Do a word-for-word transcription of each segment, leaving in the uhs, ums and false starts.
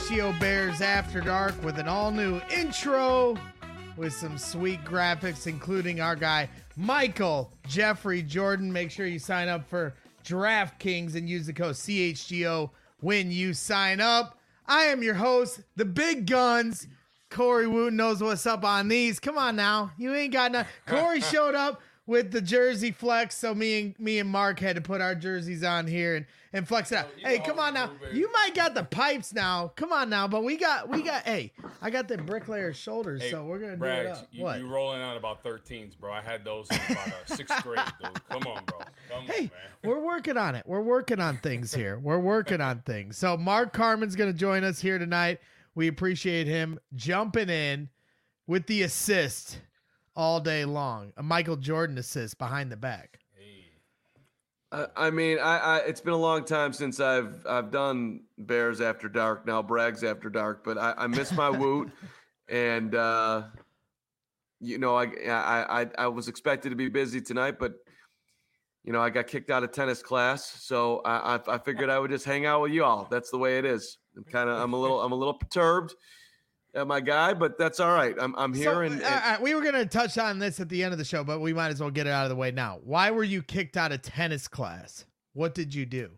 G O Bears After Dark with an all-new intro with some sweet graphics, including our guy, Michael Jeffrey Jordan. Make sure you sign up for DraftKings and use the code C H G O when you sign up. I am your host, the Big Guns. Corey Wooten knows what's up on these. Come on now. You ain't got nothing. Corey showed up with the jersey flex, so me and me and Mark had to put our jerseys on here and, and flex it out. Oh, hey, come on now. Do, you might got the pipes now. Come on now, but we got we got hey, I got the bricklayer shoulders, hey, so we're gonna Braggs, do it up. You, what? You rolling out about thirteens, bro. I had those in about uh, sixth grade, dude. Come on, bro. Come hey, on, man. We're working on it. We're working on things here. We're working on things. So Mark Carman's gonna join us here tonight. We appreciate him jumping in with the assist all day long. A Michael Jordan assist behind the back. Hey. Uh, I mean, I, I it's been a long time since I've I've done Bears After Dark, now Brags After Dark, but I, I miss my Woot, and uh, you know, I, I I I was expected to be busy tonight, but you know, I got kicked out of tennis class, so I I, I figured I would just hang out with you all. That's the way it is. I'm kind of I'm a little I'm a little perturbed at my guy, but that's all right. I'm I'm here. So, and, and uh, we were gonna touch on this at the end of the show, but we might as well get it out of the way now. Why were you kicked out of tennis class? What did you do?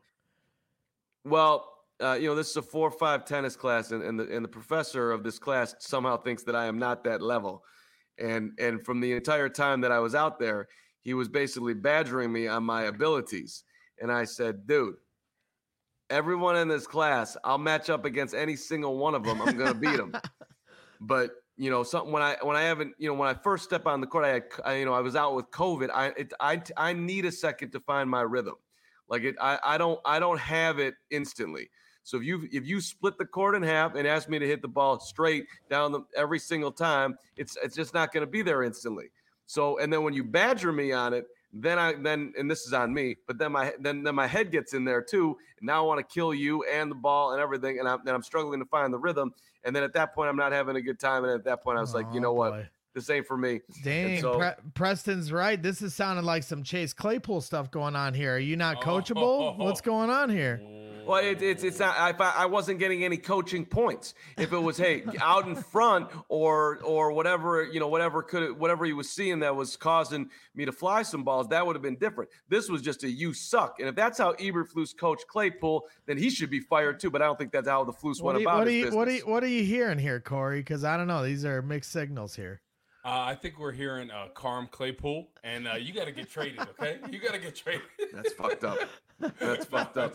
Well, uh, you know, this is a four or five tennis class, and, and the and the professor of this class somehow thinks that I am not that level, and and from the entire time that I was out there, he was basically badgering me on my abilities, and I said, dude, everyone in this class, I'll match up against any single one of them. I'm going to beat them. But, you know, something when I when I haven't, you know, when I first step on the court, I had, I, you know, I was out with COVID. I it, I I need a second to find my rhythm. Like it, I I don't I don't have it instantly. So if you if you split the court in half and ask me to hit the ball straight down the, every single time, it's it's just not going to be there instantly. So and then when you badger me on it, then I then and this is on me, but then my then then my head gets in there too, and now I want to kill you and the ball and everything, and I'm then I'm struggling to find the rhythm, and then at that point I'm not having a good time, and at that point I was oh, like, you know boy. what, this ain't for me. Dang, so, Pre- Preston's right. This is sounding like some Chase Claypool stuff going on here. Are you not coachable? Oh, oh, oh. What's going on here? Well, it, it's it's not. I I wasn't getting any coaching points. If it was, hey, out in front or or whatever, you know, whatever could whatever he was seeing that was causing me to fly some balls, that would have been different. This was just a you suck. And if that's how Eberflus coached Claypool, then he should be fired too. But I don't think that's how the Flus went you, about what his you, business. What are you What are you hearing here, Corey? Because I don't know. These are mixed signals here. Uh, I think we're hearing uh, Carm Claypool, and uh, you got to get traded, okay? You got to get traded. That's fucked up. That's fucked up.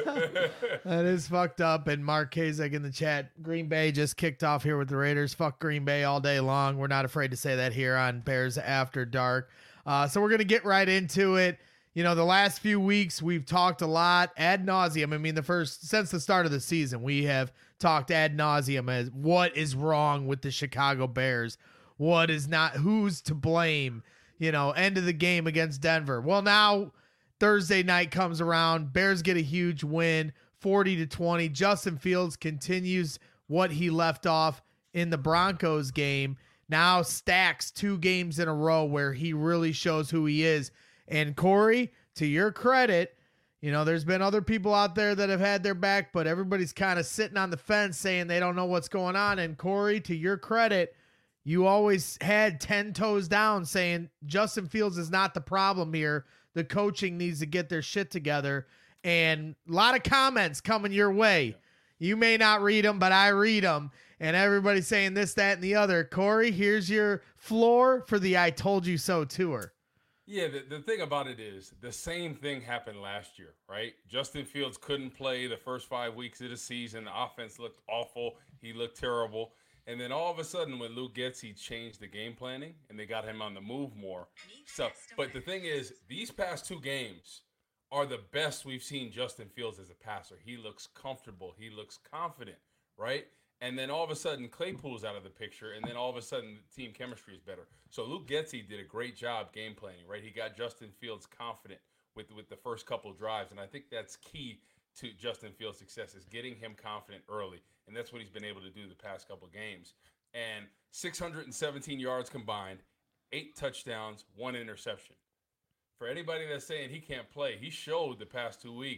That is fucked up. And Mark Kazek in the chat, Green Bay just kicked off here with the Raiders. Fuck Green Bay all day long. We're not afraid to say that here on Bears After Dark. Uh, so we're going to get right into it. You know, the last few weeks we've talked a lot ad nauseum. I mean, the first, since the start of the season, we have talked ad nauseum as what is wrong with the Chicago Bears. What is not, who's to blame, you know, end of the game against Denver. Well, now Thursday night comes around. Bears get a huge win, forty to twenty. Justin Fields continues what he left off in the Broncos game. Now stacks two games in a row where he really shows who he is. And Corey, to your credit, you know, there's been other people out there that have had their back, but everybody's kind of sitting on the fence saying they don't know what's going on. And Corey, to your credit, you always had ten toes down saying Justin Fields is not the problem here. The coaching needs to get their shit together. And a lot of comments coming your way. You may not read them, but I read them. And everybody's saying this, that, and the other. Corey, here's your floor for the I Told You So tour. Yeah, the, the thing about it is the same thing happened last year, right? Justin Fields couldn't play the first five weeks of the season. The offense looked awful. He looked terrible. And then all of a sudden, when Luke gets, he changed the game planning, and they got him on the move more. So, but the thing is, these past two games are the best we've seen Justin Fields as a passer. He looks comfortable. He looks confident, right? And then all of a sudden, Claypool's out of the picture, and then all of a sudden, the team chemistry is better. So Luke Getsy did a great job game planning, right? He got Justin Fields confident with, with the first couple drives, and I think that's key to Justin Fields' success is getting him confident early. And that's what he's been able to do the past couple of games. And six hundred seventeen yards combined, eight touchdowns, one interception. For anybody that's saying he can't play, he showed the past two weeks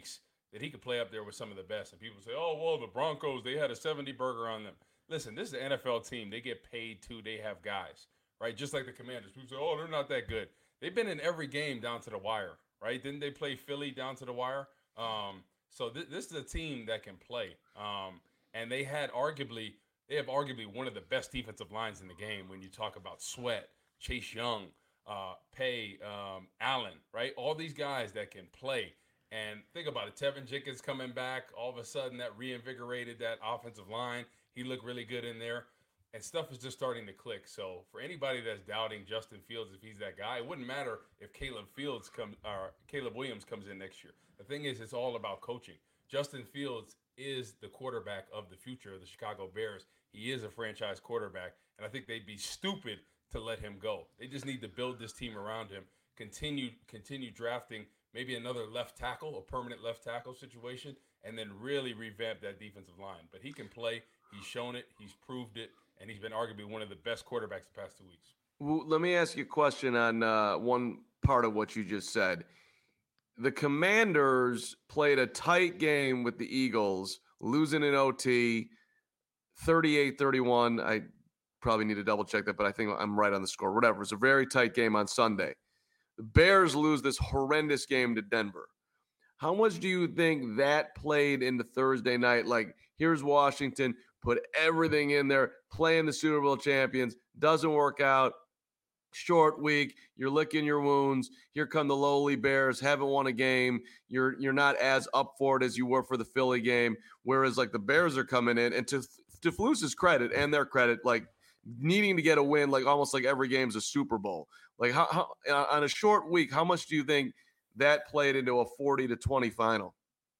that he could play up there with some of the best. And people say, oh, well, the Broncos, they had a seventy burger on them. Listen, this is an N F L team. They get paid too. They have guys, right? Just like the Commanders. People say, oh, they're not that good. They've been in every game down to the wire, right? Didn't they play Philly down to the wire? Um, so th- this is a team that can play. Um, and they had arguably, they have arguably one of the best defensive lines in the game when you talk about Sweat, Chase Young, uh, Pay, um, Allen, right? All these guys that can play. And think about it. Tevin Jenkins coming back, all of a sudden that reinvigorated that offensive line. He looked really good in there. And stuff is just starting to click. So for anybody that's doubting Justin Fields, if he's that guy, it wouldn't matter if Caleb Fields comes or Caleb Williams comes in next year. The thing is, it's all about coaching. Justin Fields is the quarterback of the future of the Chicago Bears. He is a franchise quarterback, and I think they'd be stupid to let him go. They just need to build this team around him, continue continue drafting maybe another left tackle, a permanent left tackle situation, and then really revamp that defensive line. But he can play. He's shown it. He's proved it. And he's been arguably one of the best quarterbacks the past two weeks. Well, let me ask you a question on uh, one part of what you just said. The Commanders played a tight game with the Eagles, losing in O T, thirty-eight thirty-one. I probably need to double check that, but I think I'm right on the score. Whatever. It was a very tight game on Sunday. The Bears lose this horrendous game to Denver. How much do you think that played into Thursday night? Like, here's Washington, put everything in there, playing the Super Bowl champions, doesn't work out, short week, you're licking your wounds, here come the lowly Bears, haven't won a game, you're you're not as up for it as you were for the Philly game, whereas like the Bears are coming in, and to, to Flus's credit and their credit, like needing to get a win, like almost like every game's a Super Bowl. Like how, how on a short week, how much do you think that played into a forty to twenty final?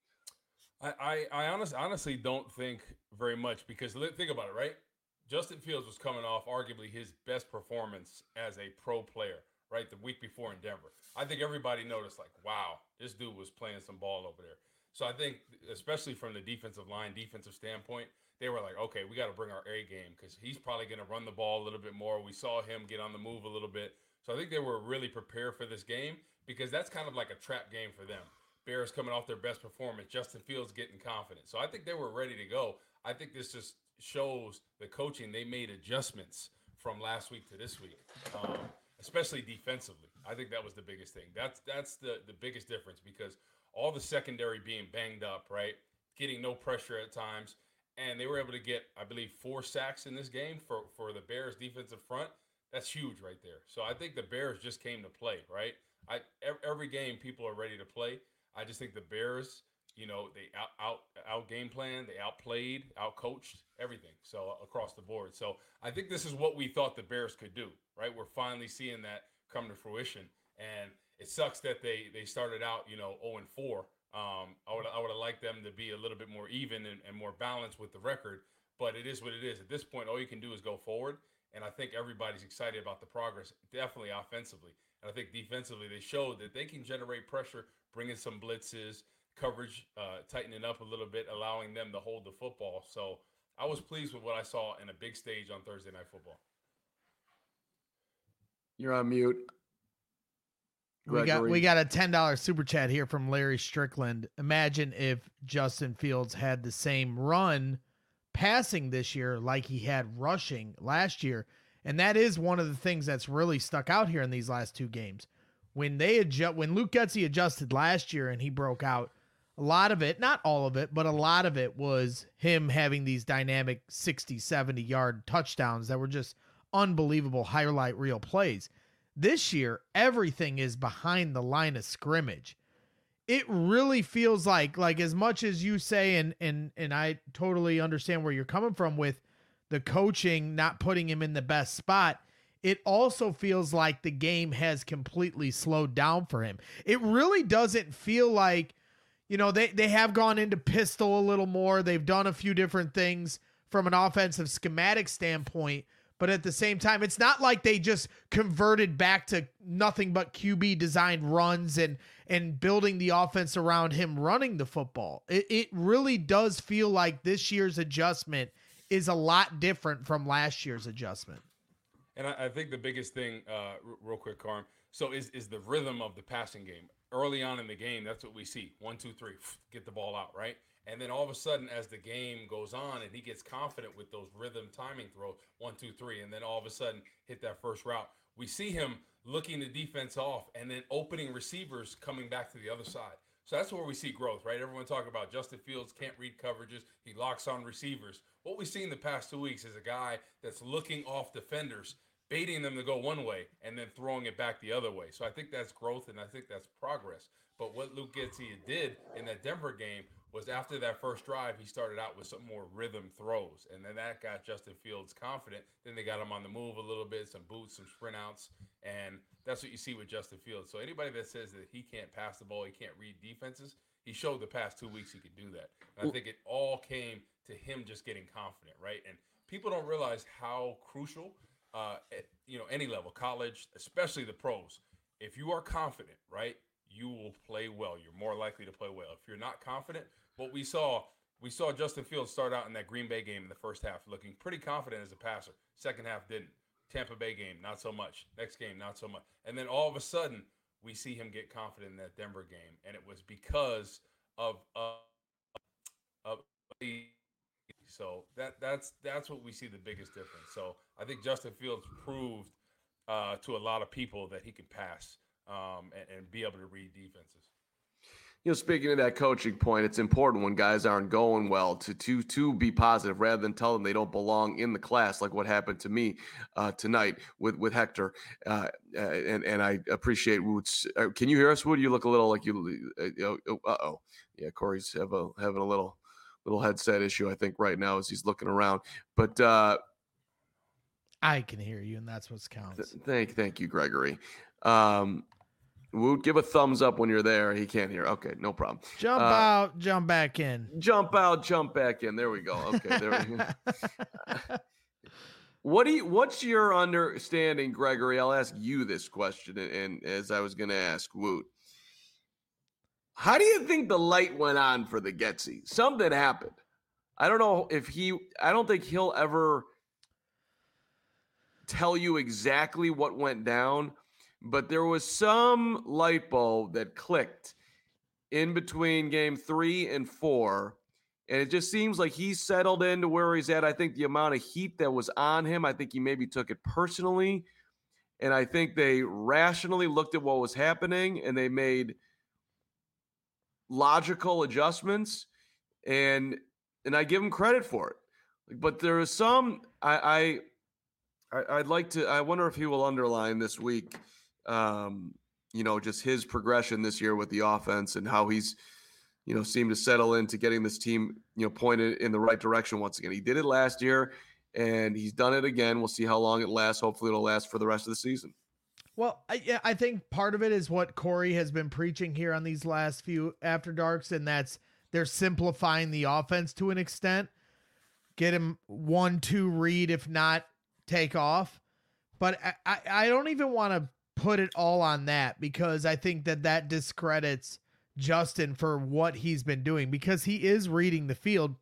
I, I, I honestly, honestly don't think very much because think about it, right? Justin Fields was coming off arguably his best performance as a pro player, right? The week before in Denver. I think everybody noticed like, wow, this dude was playing some ball over there. So I think, especially from the defensive line, defensive standpoint, they were like, okay, we got to bring our A game because he's probably going to run the ball a little bit more. We saw him get on the move a little bit. So I think they were really prepared for this game because that's kind of like a trap game for them. Bears coming off their best performance, Justin Fields getting confident. So I think they were ready to go. I think this just shows the coaching. They made adjustments from last week to this week, um, especially defensively. I think that was the biggest thing. That's that's the, the biggest difference because all the secondary being banged up, right, getting no pressure at times, and they were able to get, I believe, four sacks in this game for, for the Bears defensive front. That's huge right there. So I think the Bears just came to play, right? I every game people are ready to play. I just think the Bears, you know, they out out out game plan, they outplayed, outcoached everything. So across the board. So I think this is what we thought the Bears could do, right? We're finally seeing that come to fruition, and it sucks that they they started out, you know, oh and four. Um, I would I would have liked them to be a little bit more even and, and more balanced with the record, but it is what it is. At this point, all you can do is go forward, and I think everybody's excited about the progress, definitely offensively. And I think defensively, they showed that they can generate pressure, bring in some blitzes, coverage, uh, tightening up a little bit, allowing them to hold the football. So I was pleased with what I saw in a big stage on Thursday Night Football. You're on mute. We got we got a ten dollars super chat here from Larry Strickland. Imagine if Justin Fields had the same run passing this year like he had rushing last year. And that is one of the things that's really stuck out here in these last two games. When they adjust, when Luke Getsy adjusted last year and he broke out, a lot of it, not all of it, but a lot of it was him having these dynamic sixty, seventy yard touchdowns that were just unbelievable highlight reel plays. This year, everything is behind the line of scrimmage. It really feels like, like as much as you say, and and and I totally understand where you're coming from with the coaching not putting him in the best spot, it also feels like the game has completely slowed down for him. It really doesn't feel like, you know, they, they have gone into pistol a little more. They've done a few different things from an offensive schematic standpoint, but at the same time, it's not like they just converted back to nothing but Q B designed runs and, and building the offense around him running the football. It, it really does feel like this year's adjustment is a lot different from last year's adjustment. And I, I think the biggest thing, uh, r- real quick, Carm, so is is the rhythm of the passing game. Early on in the game, that's what we see. One, two, three, get the ball out, right? And then all of a sudden, as the game goes on and he gets confident with those rhythm timing throws, one, two, three, and then all of a sudden hit that first route, we see him looking the defense off and then opening receivers coming back to the other side. So that's where we see growth, right? Everyone talking about Justin Fields can't read coverages. He locks on receivers. What we've seen the past two weeks is a guy that's looking off defenders, baiting them to go one way and then throwing it back the other way. So I think that's growth and I think that's progress. But what Luke Getsy did in that Denver game was after that first drive, he started out with some more rhythm throws. And then that got Justin Fields confident. Then they got him on the move a little bit, some boots, some sprint outs. And that's what you see with Justin Fields. So anybody that says that he can't pass the ball, he can't read defenses, he showed the past two weeks he could do that. And I think it all came to him just getting confident, right? And people don't realize how crucial, uh, at, you know, any level, college, especially the pros, if you are confident, right, you will play well. You're more likely to play well. If you're not confident, what we saw, we saw Justin Fields start out in that Green Bay game in the first half looking pretty confident as a passer. Second half didn't. Tampa Bay game, not so much. Next game, not so much. And then all of a sudden, we see him get confident in that Denver game, and it was because of uh, of the so that that's that's what we see the biggest difference. So I think Justin Fields proved uh, to a lot of people that he can pass um, and, and be able to read defenses. You know, speaking of that coaching point, it's important when guys aren't going well to to to be positive rather than tell them they don't belong in the class, like what happened to me uh, tonight with with Hector. Uh, and and I appreciate Woot's. Uh, can you hear us, Woot? You look a little like you. Uh oh, yeah. Corey's have a having a little little headset issue, I think, right now as he's looking around. But uh, I can hear you, and that's what counts. Th- thank thank you, Gregory. Um, Woot, give a thumbs up when you're there. He can't hear. Okay, no problem. Jump uh, out, jump back in. Jump out, jump back in. There we go. Okay, there we go. What do you? What's your understanding, Gregory? I'll ask you this question, and, and as I was going to ask Woot, how do you think the light went on for the Getsy? Something happened. I don't know if he. I don't think he'll ever tell you exactly what went down. But there was some light bulb that clicked in between game three and four. And it just seems like he settled into where he's at. I think the amount of heat that was on him, I think he maybe took it personally. And I think they rationally looked at what was happening and they made logical adjustments. And and I give him credit for it. But there is some, I, I, I'd like to, I wonder if he will underline this week. Um, you know, just his progression this year with the offense and how he's, you know, seemed to settle into getting this team, you know, pointed in the right direction once again. He did it last year and he's done it again. We'll see how long it lasts. Hopefully it'll last for the rest of the season. Well, I, yeah, I think part of it is what Corey has been preaching here on these last few After Darks, and that's they're simplifying the offense to an extent. Get him one, two read, if not take off. But I, I, I don't even want to put it all on that because I think that that discredits Justin for what he's been doing because he is reading the field.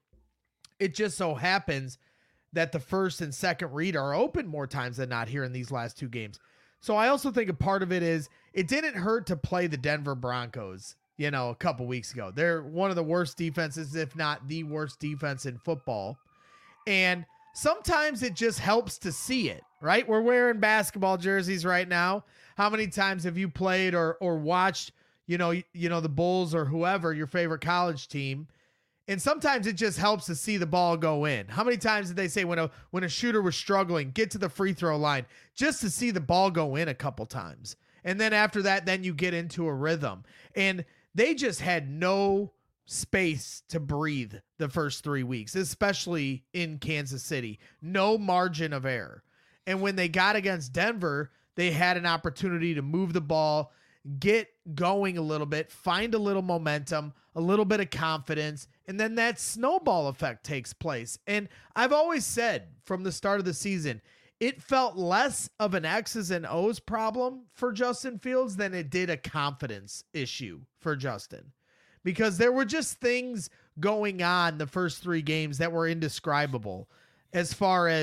It just so happens that the first and second read are open more times than not here in these last two games. So I also think a part of it is it didn't hurt to play the Denver Broncos, you know, a couple weeks ago. They're one of the worst defenses, if not the worst defense in football. And sometimes it just helps to see it, right? We're wearing basketball jerseys right now. How many times have you played or or watched, you know, you know, the Bulls or whoever, your favorite college team? And sometimes it just helps to see the ball go in. How many times did they say when a when a shooter was struggling, get to the free throw line just to see the ball go in a couple times? And then after that, then you get into a rhythm. And they just had no space to breathe the first three weeks, especially in Kansas City. No margin of error. And when they got against Denver, they had an opportunity to move the ball, get going a little bit, find a little momentum, a little bit of confidence, and then that snowball effect takes place. And I've always said from the start of the season, it felt less of an X's and O's problem for Justin Fields than it did a confidence issue for Justin. Because there were just things going on the first three games that were indescribable as far as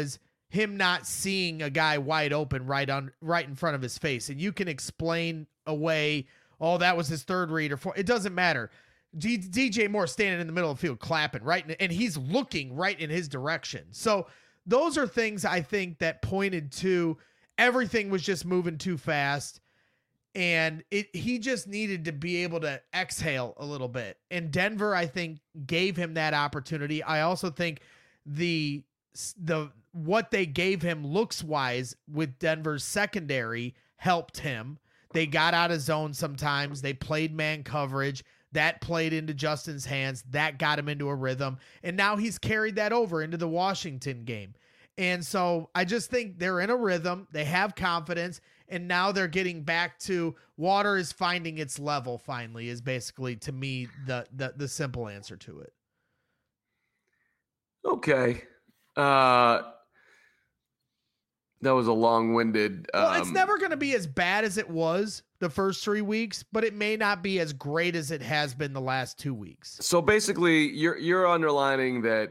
him not seeing a guy wide open right on right in front of his face. And you can explain away, oh, that was his third read or four. It doesn't matter. D- DJ Moore standing in the middle of the field clapping, right? And he's looking right in his direction. So those are things I think that pointed to everything was just moving too fast. And it he just needed to be able to exhale a little bit. And Denver, I think, gave him that opportunity. I also think the the what they gave him looks wise with Denver's secondary helped him. They got out of zone sometimes. They played man coverage. That played into Justin's hands. That got him into a rhythm. And now he's carried that over into the Washington game. And so I just think they're in a rhythm. They have confidence. And now they're getting back to water is finding its level finally is basically, to me, the the, the simple answer to it. Okay. Uh, that was a long-winded. Um, well, it's never going to be as bad as it was the first three weeks, but it may not be as great as it has been the last two weeks. So basically, you're you're underlining that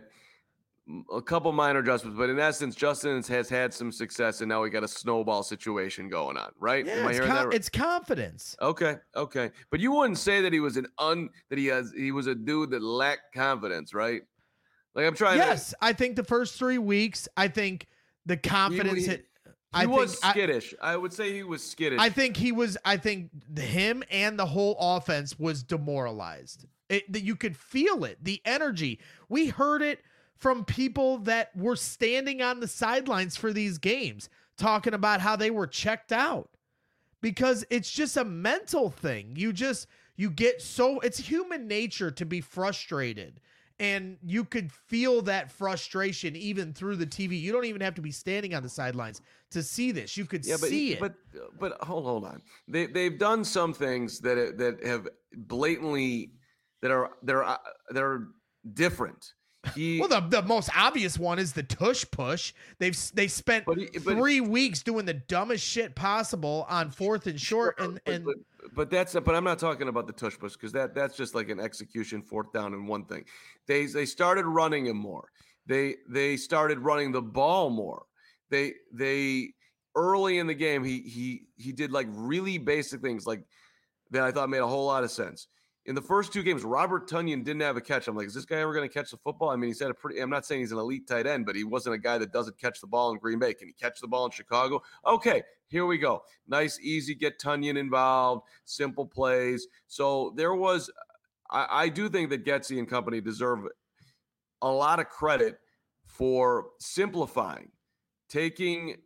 a couple minor adjustments, but in essence, Justin has had some success, and now we got a snowball situation going on, right? Yeah, Am I it's, hearing com- that right? it's confidence. Okay, okay, but you wouldn't say that he was an un that he has he was a dude that lacked confidence, right? Like I'm trying. Yes, to, I think the first three weeks, I think the confidence he, hit. He I was think, skittish. I, I would say he was skittish. I think he was. I think him and the whole offense was demoralized. It, that you could feel it, the energy. We heard it from people that were standing on the sidelines for these games, talking about how they were checked out because it's just a mental thing. You just you get so it's human nature to be frustrated. And you could feel that frustration even through the T V. You don't even have to be standing on the sidelines to see this. You could yeah, but, see it. But but hold hold on. They they've done some things that that have blatantly that are they're they're different. He, well, the, the most obvious one is the tush push. They've they spent but he, but three weeks doing the dumbest shit possible on fourth and short, sure, and but, and but, but that's but I'm not talking about the tush push because that that's just like an execution fourth down and one thing. They they started running him more. They they started running the ball more. They they early in the game he he he did like really basic things like that I thought made a whole lot of sense. In the first two games, Robert Tonyan didn't have a catch. I'm like, is this guy ever going to catch the football? I mean, he's had a pretty, I'm not saying he's an elite tight end, but he wasn't a guy that doesn't catch the ball in Green Bay. Can he catch the ball in Chicago? Okay, here we go. Nice, easy, get Tonyan involved, simple plays. So there was, I, I do think that Getsy and company deserve a lot of credit for simplifying, taking,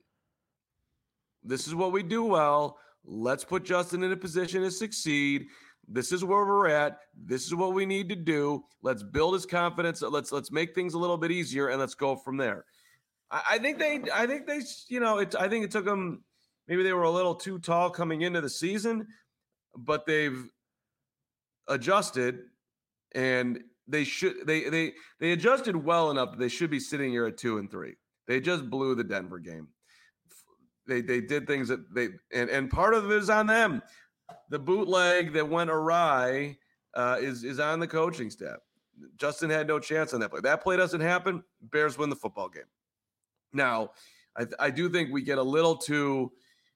this is what we do well. Let's put Justin in a position to succeed. This is where we're at. This is what we need to do. Let's build his confidence. Let's let's make things a little bit easier, and let's go from there. I, I think they, I think they, you know, it. I think it took them. Maybe they were a little too tall coming into the season, but they've adjusted, and they should. They they they adjusted well enough that they should be sitting here at two and three. They just blew the Denver game. They they did things that they and and part of it is on them. The bootleg that went awry uh, is is on the coaching staff. Justin had no chance on that play. That play doesn't happen. Bears win the football game. Now, I, I do think we get a little too.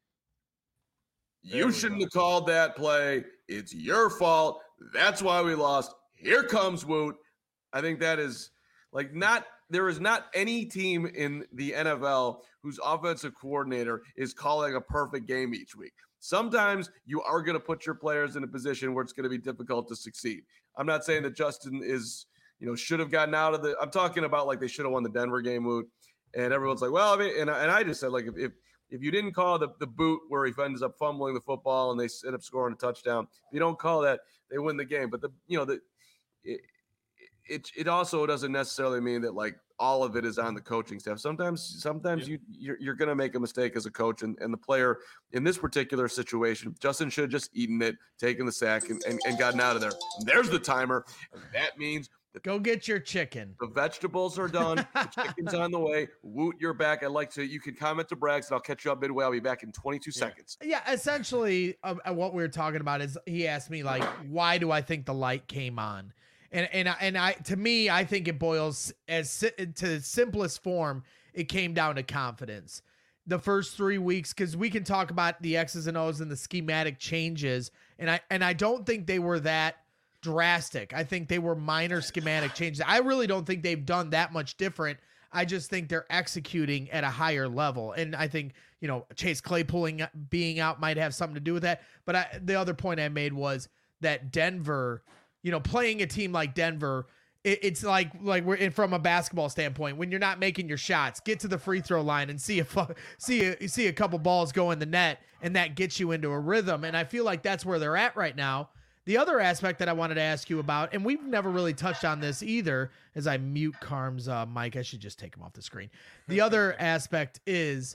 You shouldn't go. have called that play. It's your fault. That's why we lost. Here comes Woot. I think that is like not. There is not any team in the N F L whose offensive coordinator is calling a perfect game each week. Sometimes you are going to put your players in a position where it's going to be difficult to succeed. I'm not saying that Justin is, you know, should have gotten out of the, I'm talking about like they should have won the Denver game, Woot. And everyone's like, well, I mean, and, and I just said, like, if, if if you didn't call the, the boot where he ends up fumbling the football and they end up scoring a touchdown, if you don't call that, they win the game. But the, you know, the, it, it, it also doesn't necessarily mean that like all of it is on the coaching staff. Sometimes, sometimes yeah. you you're, you're going to make a mistake as a coach, and, and the player in this particular situation, Justin should have just eaten it, taken the sack, and, and, and gotten out of there. And there's the timer. And that means that go get your chicken. The vegetables are done. The chicken's on the way. Woot, you're back. I'd like to. You can comment to Braggs, and I'll catch you up midway. I'll be back in twenty-two yeah. seconds. Yeah, essentially, uh, what we were talking about is he asked me like, why do I think the light came on? And and and I to me, I think it boils as to the simplest form it came down to confidence. The first three weeks, because we can talk about the X's and O's and the schematic changes, and I and I don't think they were that drastic. I think they were minor schematic changes. I really don't think they've done that much different. I just think they're executing at a higher level. And I think, you know, Chase Claypool being out might have something to do with that. But I, the other point I made was that Denver, you know, playing a team like Denver, it, it's like, like we're in from a basketball standpoint, when you're not making your shots, get to the free throw line and see a, see a, see a couple balls go in the net, and that gets you into a rhythm. And I feel like that's where they're at right now. The other aspect that I wanted to ask you about, and we've never really touched on this either, as I mute Carm's uh, mic. I should just take him off the screen. The other aspect is,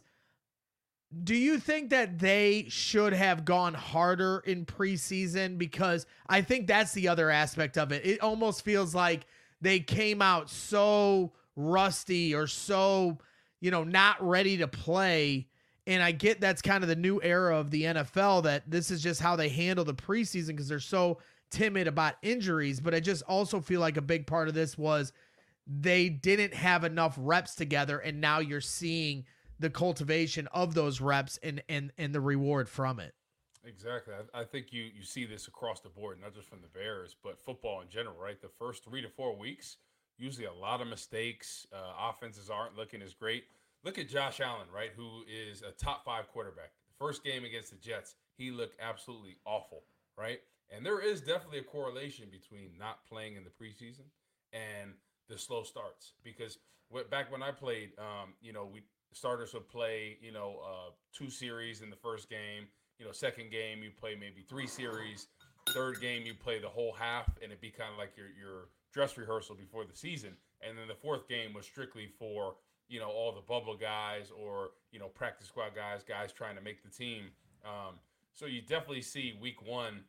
do you think that they should have gone harder in preseason? Because I think that's the other aspect of it. It almost feels like they came out so rusty or so, you know, not ready to play. And I get that's kind of the new era of the N F L, that this is just how they handle the preseason because they're so timid about injuries. But I just also feel like a big part of this was they didn't have enough reps together, and now you're seeing the cultivation of those reps and and and the reward from it. Exactly. I, I think you you see this across the board, not just from the Bears, but football in general, right? The first three to four weeks, usually a lot of mistakes. Uh, offenses aren't looking as great. Look at Josh Allen, right, who is a top five quarterback. The first game against the Jets, he looked absolutely awful, right? And there is definitely a correlation between not playing in the preseason and the slow starts. Because what, back when I played, um, you know, we starters would play, you know, uh, two series in the first game. You know, second game you play maybe three series. Third game you play the whole half, and it'd be kind of like your your dress rehearsal before the season. And then the fourth game was strictly for, you know, all the bubble guys or, you know, practice squad guys, guys trying to make the team. Um, so you definitely see week one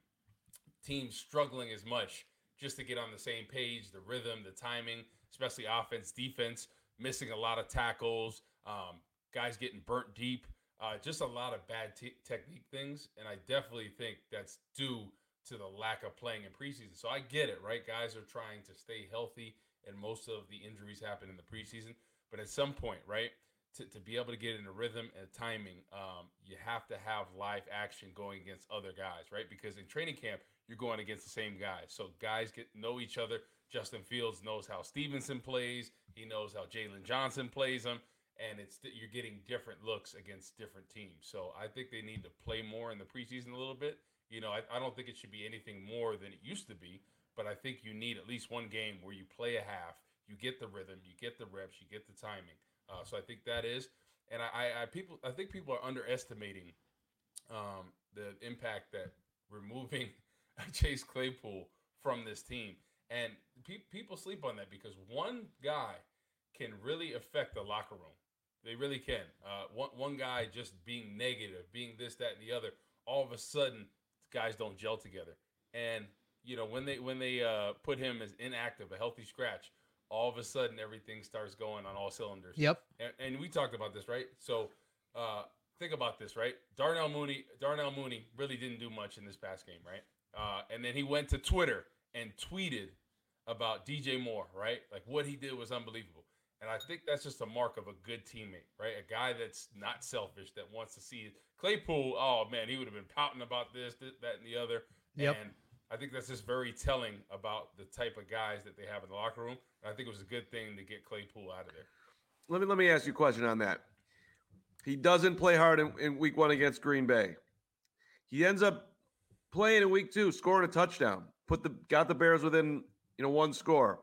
teams struggling as much just to get on the same page, the rhythm, the timing, especially offense, defense, missing a lot of tackles, um, guys getting burnt deep, uh, just a lot of bad t- technique things. And I definitely think that's due to the lack of playing in preseason. So I get it, right? Guys are trying to stay healthy, and most of the injuries happen in the preseason. But at some point, right, to, to be able to get in a rhythm and timing, um, you have to have live action going against other guys, right? Because in training camp, you're going against the same guys. So guys get know each other. Justin Fields knows how Stevenson plays. He knows how Jalen Johnson plays them. And it's you're getting different looks against different teams. So I think they need to play more in the preseason a little bit. You know, I, I don't think it should be anything more than it used to be. But I think you need at least one game where you play a half. You get the rhythm, you get the reps, you get the timing. Uh, so I think that is, and I, I, I people, I think people are underestimating um, the impact that removing Chase Claypool from this team, and pe- people sleep on that because one guy can really affect the locker room. They really can. Uh, one one guy just being negative, being this, that, and the other. All of a sudden, guys don't gel together, and you know when they when they uh, put him as inactive, a healthy scratch. All of a sudden, everything starts going on all cylinders. Yep. And, and we talked about this, right? So uh, think about this, right? Darnell Mooney, Darnell Mooney really didn't do much in this past game, right? Uh, and then he went to Twitter and tweeted about D J Moore, right? Like what he did was unbelievable. And I think that's just a mark of a good teammate, right? A guy that's not selfish, that wants to see it. Claypool, oh, man, he would have been pouting about this, this that, and the other. Yep. And I think that's just very telling about the type of guys that they have in the locker room. And I think it was a good thing to get Claypool out of there. Let me let me ask you a question on that. He doesn't play hard in, in week one against Green Bay. He ends up playing in week two, scoring a touchdown, put the got the Bears within you know one score.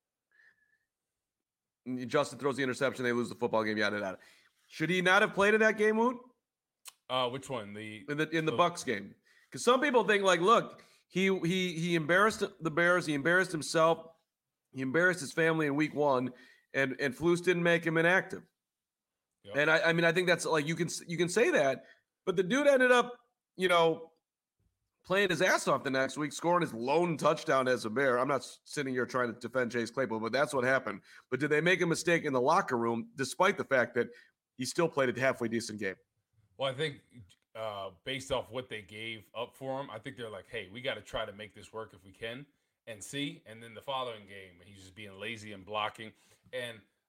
And Justin throws the interception, they lose the football game. Yada yada. Should he not have played in that game, Woot? Uh, which one? The in the in the the, Bucks game? Because some people think like, look, he he he embarrassed the Bears, he embarrassed himself, he embarrassed his family in week one, and and Flus didn't make him inactive. Yep. And I, I mean, I think that's like you can you can say that, but the dude ended up, you know, playing his ass off the next week, scoring his lone touchdown as a Bear. I'm not sitting here trying to defend Chase Claypool, but that's what happened. But did they make a mistake in the locker room, despite the fact that he still played a halfway decent game? Well, I think uh, based off what they gave up for him, I think they're like, hey, we got to try to make this work if we can and see. And then the following game, he's just being lazy and blocking. And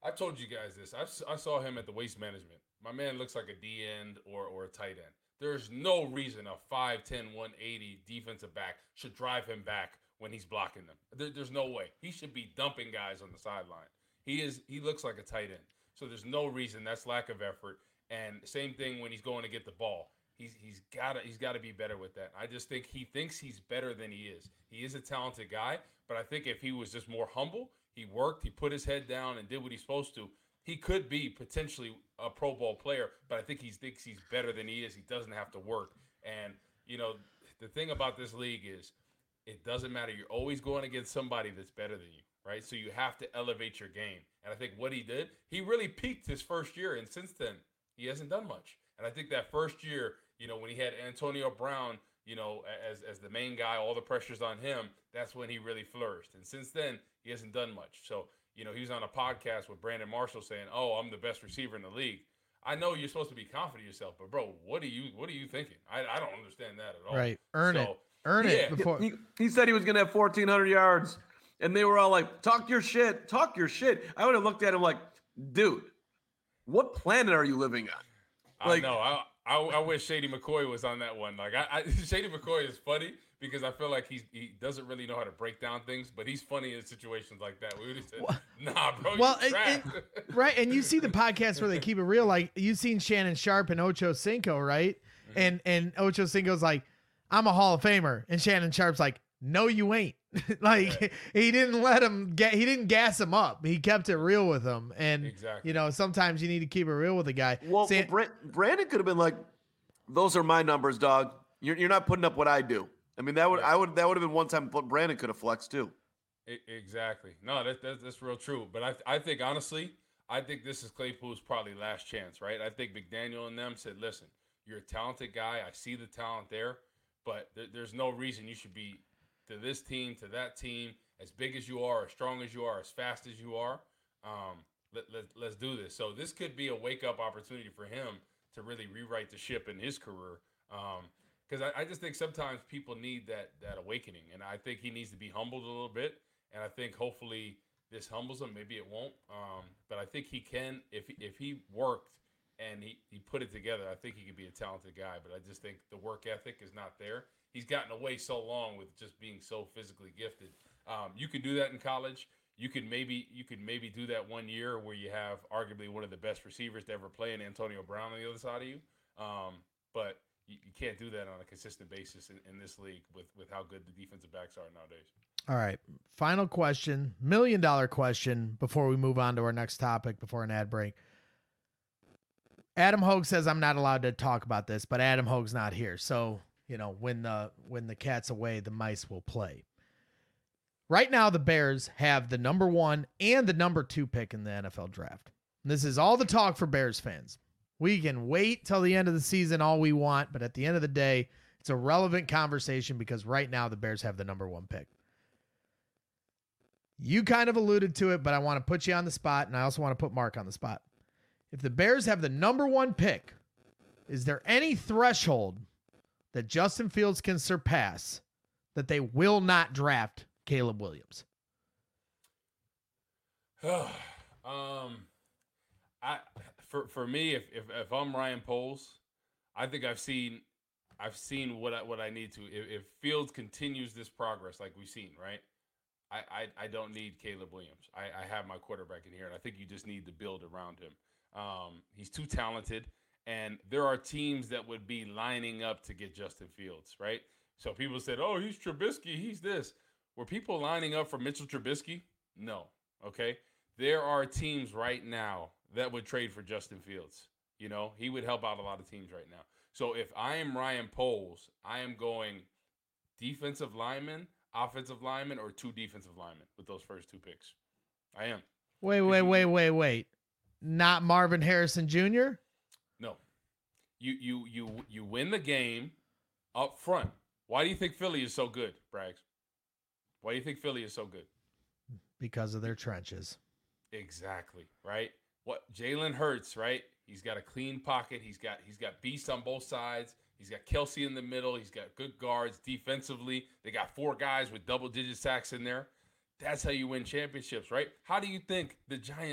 I told you guys this. I, s- I saw him at the Waste Management. My man looks like a D end or, or a tight end. There's no reason a five ten, one eighty defensive back should drive him back when he's blocking them. There, there's no way. He should be dumping guys on the sideline. He is. He looks like a tight end. So there's no reason. That's lack of effort. And same thing when he's going to get the ball. He's he's got to he's got to be better with that. I just think he thinks he's better than he is. He is a talented guy, but I think if he was just more humble, he worked, he put his head down and did what he's supposed to, he could be potentially a Pro Bowl player. But I think he thinks he's better than he is. He doesn't have to work. And you know, the thing about this league is, it doesn't matter. You're always going against somebody that's better than you, right? So you have to elevate your game. And I think what he did, he really peaked his first year, and since then he hasn't done much. And I think that first year, you know, when he had Antonio Brown, you know, as as the main guy, all the pressure's on him, that's when he really flourished. And since then, he hasn't done much. So, you know, he was on a podcast with Brandon Marshall saying, "Oh, I'm the best receiver in the league." I know you're supposed to be confident in yourself, but bro, what are you what are you thinking? I, I don't understand that at all. Right. Earn so, it. Earn yeah. it before. He, he said he was going to have fourteen hundred yards, and they were all like, "Talk your shit, talk your shit." I would have looked at him like, "Dude, what planet are you living on?" Like, I know. I, I I wish Shady McCoy was on that one. Like, I, I Shady McCoy is funny because I feel like he's he doesn't really know how to break down things, but he's funny in situations like that. We would have said, well, "Nah, bro, well, you it, trash." it, right? And you see the podcast where they keep it real. Like you've seen Shannon Sharp and Ocho Cinco, right? Mm-hmm. And and Ocho Cinco's like, "I'm a Hall of Famer," and Shannon Sharp's like, "No, you ain't." Like right. He didn't let him get, he didn't gas him up. He kept it real with him. And exactly. You know, sometimes you need to keep it real with a guy. Well, San- well Brandon could have been like, "Those are my numbers, dog. You're you're not putting up what I do." I mean, that would I would that would have been one time Brandon could have flexed too. Exactly. No, that, that that's real true. But I I think honestly, I think this is Claypool's probably last chance, right? I think McDaniel and them said, "Listen, you're a talented guy. I see the talent there, but th- there's no reason you should be to this team, to that team, as big as you are, as strong as you are, as fast as you are. Um, let, let, let's do this." So this could be a wake-up opportunity for him to really rewrite the ship in his career. Because um, I, I just think sometimes people need that that awakening, and I think he needs to be humbled a little bit. And I think hopefully this humbles him. Maybe it won't, um, but I think he can if he, if he worked and he, he put it together. I think he could be a talented guy, but I just think the work ethic is not there. He's gotten away so long with just being so physically gifted. Um, you can do that in college. You could maybe you could maybe do that one year where you have arguably one of the best receivers to ever play in Antonio Brown on the other side of you. Um, but you, you can't do that on a consistent basis in, in this league with, with how good the defensive backs are nowadays. All right. Final question, million dollar question before we move on to our next topic before an ad break. Adam Hogue says I'm not allowed to talk about this, but Adam Hogue's not here. So, you know, when the when the cat's away, the mice will play. Right now, the Bears have the number one and the number two pick in the N F L draft. And this is all the talk for Bears fans. We can wait till the end of the season all we want, but at the end of the day, it's a relevant conversation because right now the Bears have the number one pick. You kind of alluded to it, but I want to put you on the spot, and I also want to put Mark on the spot. If the Bears have the number one pick, is there any threshold that Justin Fields can surpass that they will not draft Caleb Williams? um, I for for me, if, if if I'm Ryan Poles, I think I've seen I've seen what I what I need to. If, if Fields continues this progress like we've seen, right? I, I, I don't need Caleb Williams. I, I have my quarterback in here, and I think you just need to build around him. Um, he's too talented, and there are teams that would be lining up to get Justin Fields, right? So people said, "Oh, he's Trubisky, he's this." Were people lining up for Mitchell Trubisky? No, okay? There are teams right now that would trade for Justin Fields. You know, he would help out a lot of teams right now. So if I am Ryan Poles, I am going defensive lineman, offensive lineman, or two defensive linemen with those first two picks. I am. Wait, wait, wait, wait, wait. Not Marvin Harrison Junior? No. You you you you win the game up front. Why do you think Philly is so good, Braggs? Why do you think Philly is so good? Because of their trenches. Exactly, right? What Jalen Hurts, right? He's got a clean pocket. He's got he's got beasts on both sides. He's got Kelsey in the middle. He's got good guards defensively. They got four guys with double-digit sacks in there. That's how you win championships, right? How do you think the Giants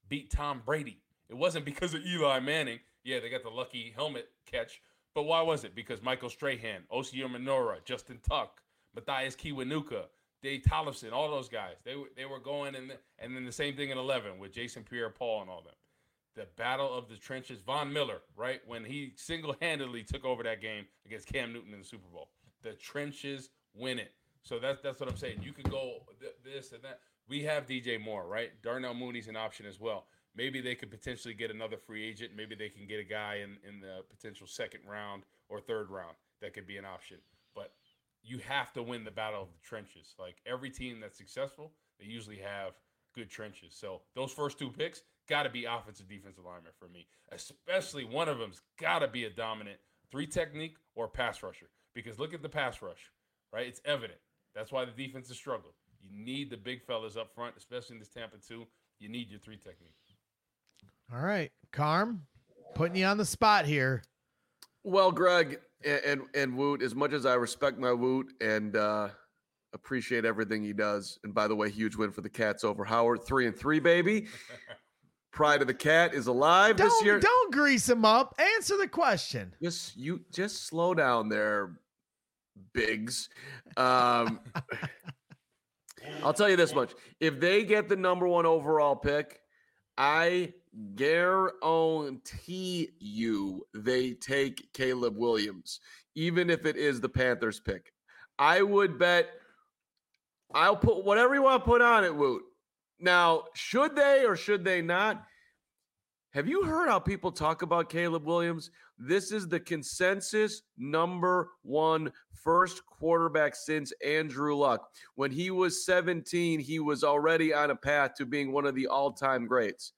beat Tom Brady. It wasn't because of Eli Manning. Yeah, they got the lucky helmet catch. But why was it? Because Michael Strahan, Osi Umenyiora, Justin Tuck, Matthias Kiwanuka, Dave Tollefson, all those guys. They, they were going in. The, and then the same thing in eleven with Jason Pierre-Paul and all them. The battle of the trenches. Von Miller, right? When he single-handedly took over that game against Cam Newton in the Super Bowl. The trenches win it. So that's, that's what I'm saying. You could go th- this and that. We have D J Moore, right? Darnell Mooney's an option as well. Maybe they could potentially get another free agent. Maybe they can get a guy in, in the potential second round or third round. That could be an option. But you have to win the battle of the trenches. Like every team that's successful, they usually have good trenches. So those first two picks got to be offensive, defensive lineman for me. Especially one of them's got to be a dominant three technique or pass rusher. Because look at the pass rush, right? It's evident. That's why the defense has struggled. You need the big fellas up front, especially in this Tampa two. You need your three technique. All right, Carm, putting you on the spot here. Well, Greg and, and, and Woot, as much as I respect my Woot and uh, appreciate everything he does, and by the way, huge win for the Cats over Howard, three and three, baby. Pride of the Cat is alive don't, this year. Don't grease him up. Answer the question. Just you, just slow down there, Biggs. Um, I'll tell you this much: if they get the number one overall pick, I guarantee you they take Caleb Williams, even if it is the Panthers pick. I would bet. I'll put whatever you want to put on it, Woot. Now, should they or should they not? Have you heard how people talk about Caleb Williams? This is the consensus number one first quarterback since Andrew Luck. When he was seventeen, he was already on a path to being one of the all-time greats.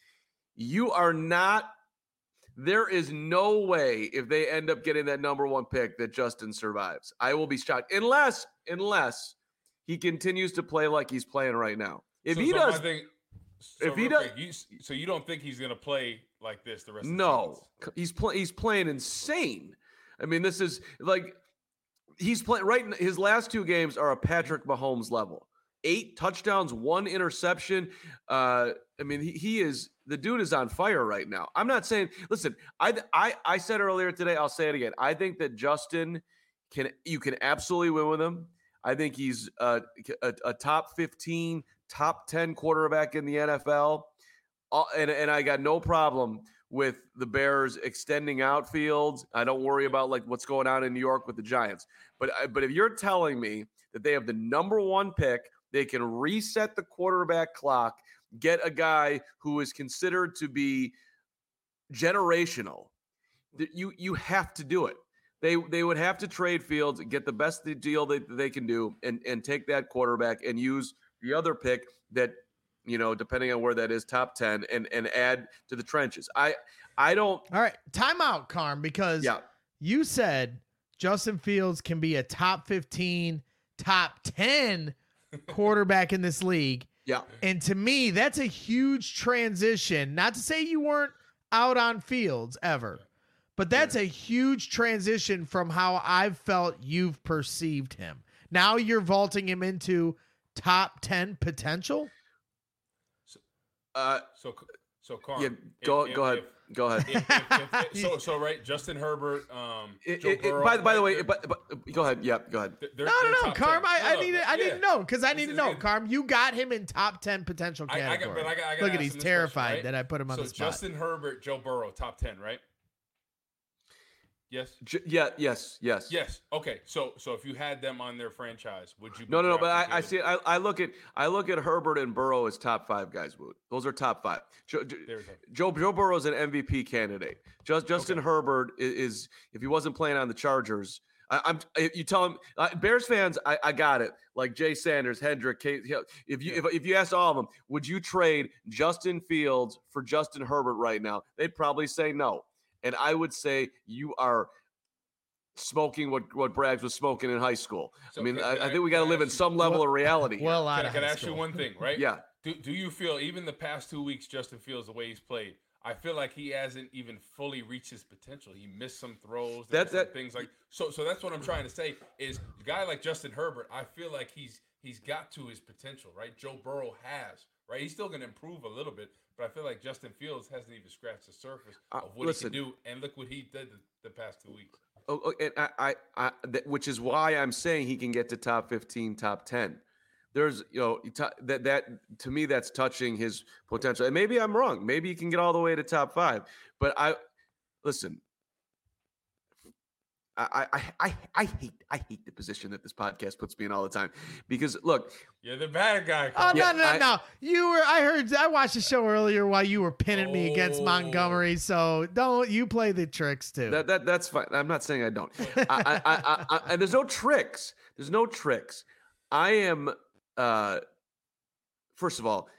You are not – there is no way if they end up getting that number one pick that Justin survives. I will be shocked. Unless, unless he continues to play like he's playing right now. If so, he so does, think, so if he does, quick, you, so you don't think he's going to play like this the rest of the no, season? he's playing. He's playing insane. I mean, this is like he's playing right. His last two games are a Patrick Mahomes level. Eight touchdowns, one interception. Uh, I mean, he, he is the dude is on fire right now. I'm not saying. Listen, I I I said earlier today. I'll say it again. I think that Justin can. You can absolutely win with him. I think he's a, a, a top fifteen, top ten quarterback in the N F L. Uh, and, and I got no problem with the Bears extending outfields. I don't worry about like what's going on in New York with the Giants. But but if you're telling me that they have the number one pick, they can reset the quarterback clock, get a guy who is considered to be generational, you you have to do it. They they would have to trade Fields, get the best deal that they can do, and, and take that quarterback and use the other pick that, you know, depending on where that is, top ten, and, and add to the trenches. I I don't. All right, timeout, Carm, because yeah. you said Justin Fields can be a top fifteen, top ten quarterback in this league. Yeah. And to me, that's a huge transition. Not to say you weren't out on Fields ever. But that's a huge transition from how I've felt you've perceived him. Now you're vaulting him into top ten potential. So, uh, so, so Carm, yeah, go if, go if, ahead, if, go ahead. If, if, if, so, so right, Justin Herbert, um, It, Joe it, Burrow, it, by, by the way, they're, but, but go ahead. Yeah, go ahead. they're, No, no, they're no, top Carm. ten. I, I No, need to, I yeah. need to know because I need This to is know, good. Carm. You got him in top ten potential I, I got, category. but I got, I got Look at he's terrified question, right? that I put him on so the spot. Justin Herbert, Joe Burrow, top ten, right? Yes. J- yeah. Yes. Yes. Yes. Okay. So, so if you had them on their franchise, would you? Be No, no, no. But I, drafting I Caleb? see. I, I look at I look at Herbert and Burrow as top five guys. Wood. Those are top five. Joe There's a- Joe, Joe Burrow is an M V P candidate. Just Justin Okay. Herbert is, is if he wasn't playing on the Chargers. I, I'm. You tell him, uh, Bears fans. I, I got it. Like Jay Sanders, Hendrick. Kate, if you if, if you asked all of them, would you trade Justin Fields for Justin Herbert right now? They'd probably say no. And I would say you are smoking what what Braggs was smoking in high school. So I mean, can- I, can I I- think we got to can I live in ask you- some level Well- of reality. Well, here. out Can, I- of can I high ask you school. one thing, right? Yeah. Do Do you feel even the past two weeks, Justin Fields, the way he's played, I feel like he hasn't even fully reached his potential. He missed some throws. That- That, that- things like so. So that's what I'm trying to say is a guy like Justin Herbert. I feel like he's he's got to his potential, right? Joe Burrow has, right? He's still going to improve a little bit, but I feel like Justin Fields hasn't even scratched the surface Uh, of what listen. he can do. And look what he did the, the past two weeks. Oh, oh, and I, I, I th- which is why I'm saying he can get to top fifteen, top ten. There's, you know, t- that that to me that's touching his potential. And maybe I'm wrong. Maybe he can get all the way to top five. But I listen. I, I, I, I hate I hate the position that this podcast puts me in all the time because look, you're the bad guy. Oh Yeah, no no I- no! You were. I heard. I watched the show earlier while you were pinning me against Oh. Montgomery. So don't you play the tricks too? that that that's fine. I'm not saying I don't. I, I, I, I, I, and there's no tricks. There's no tricks. I am. Uh, first of all,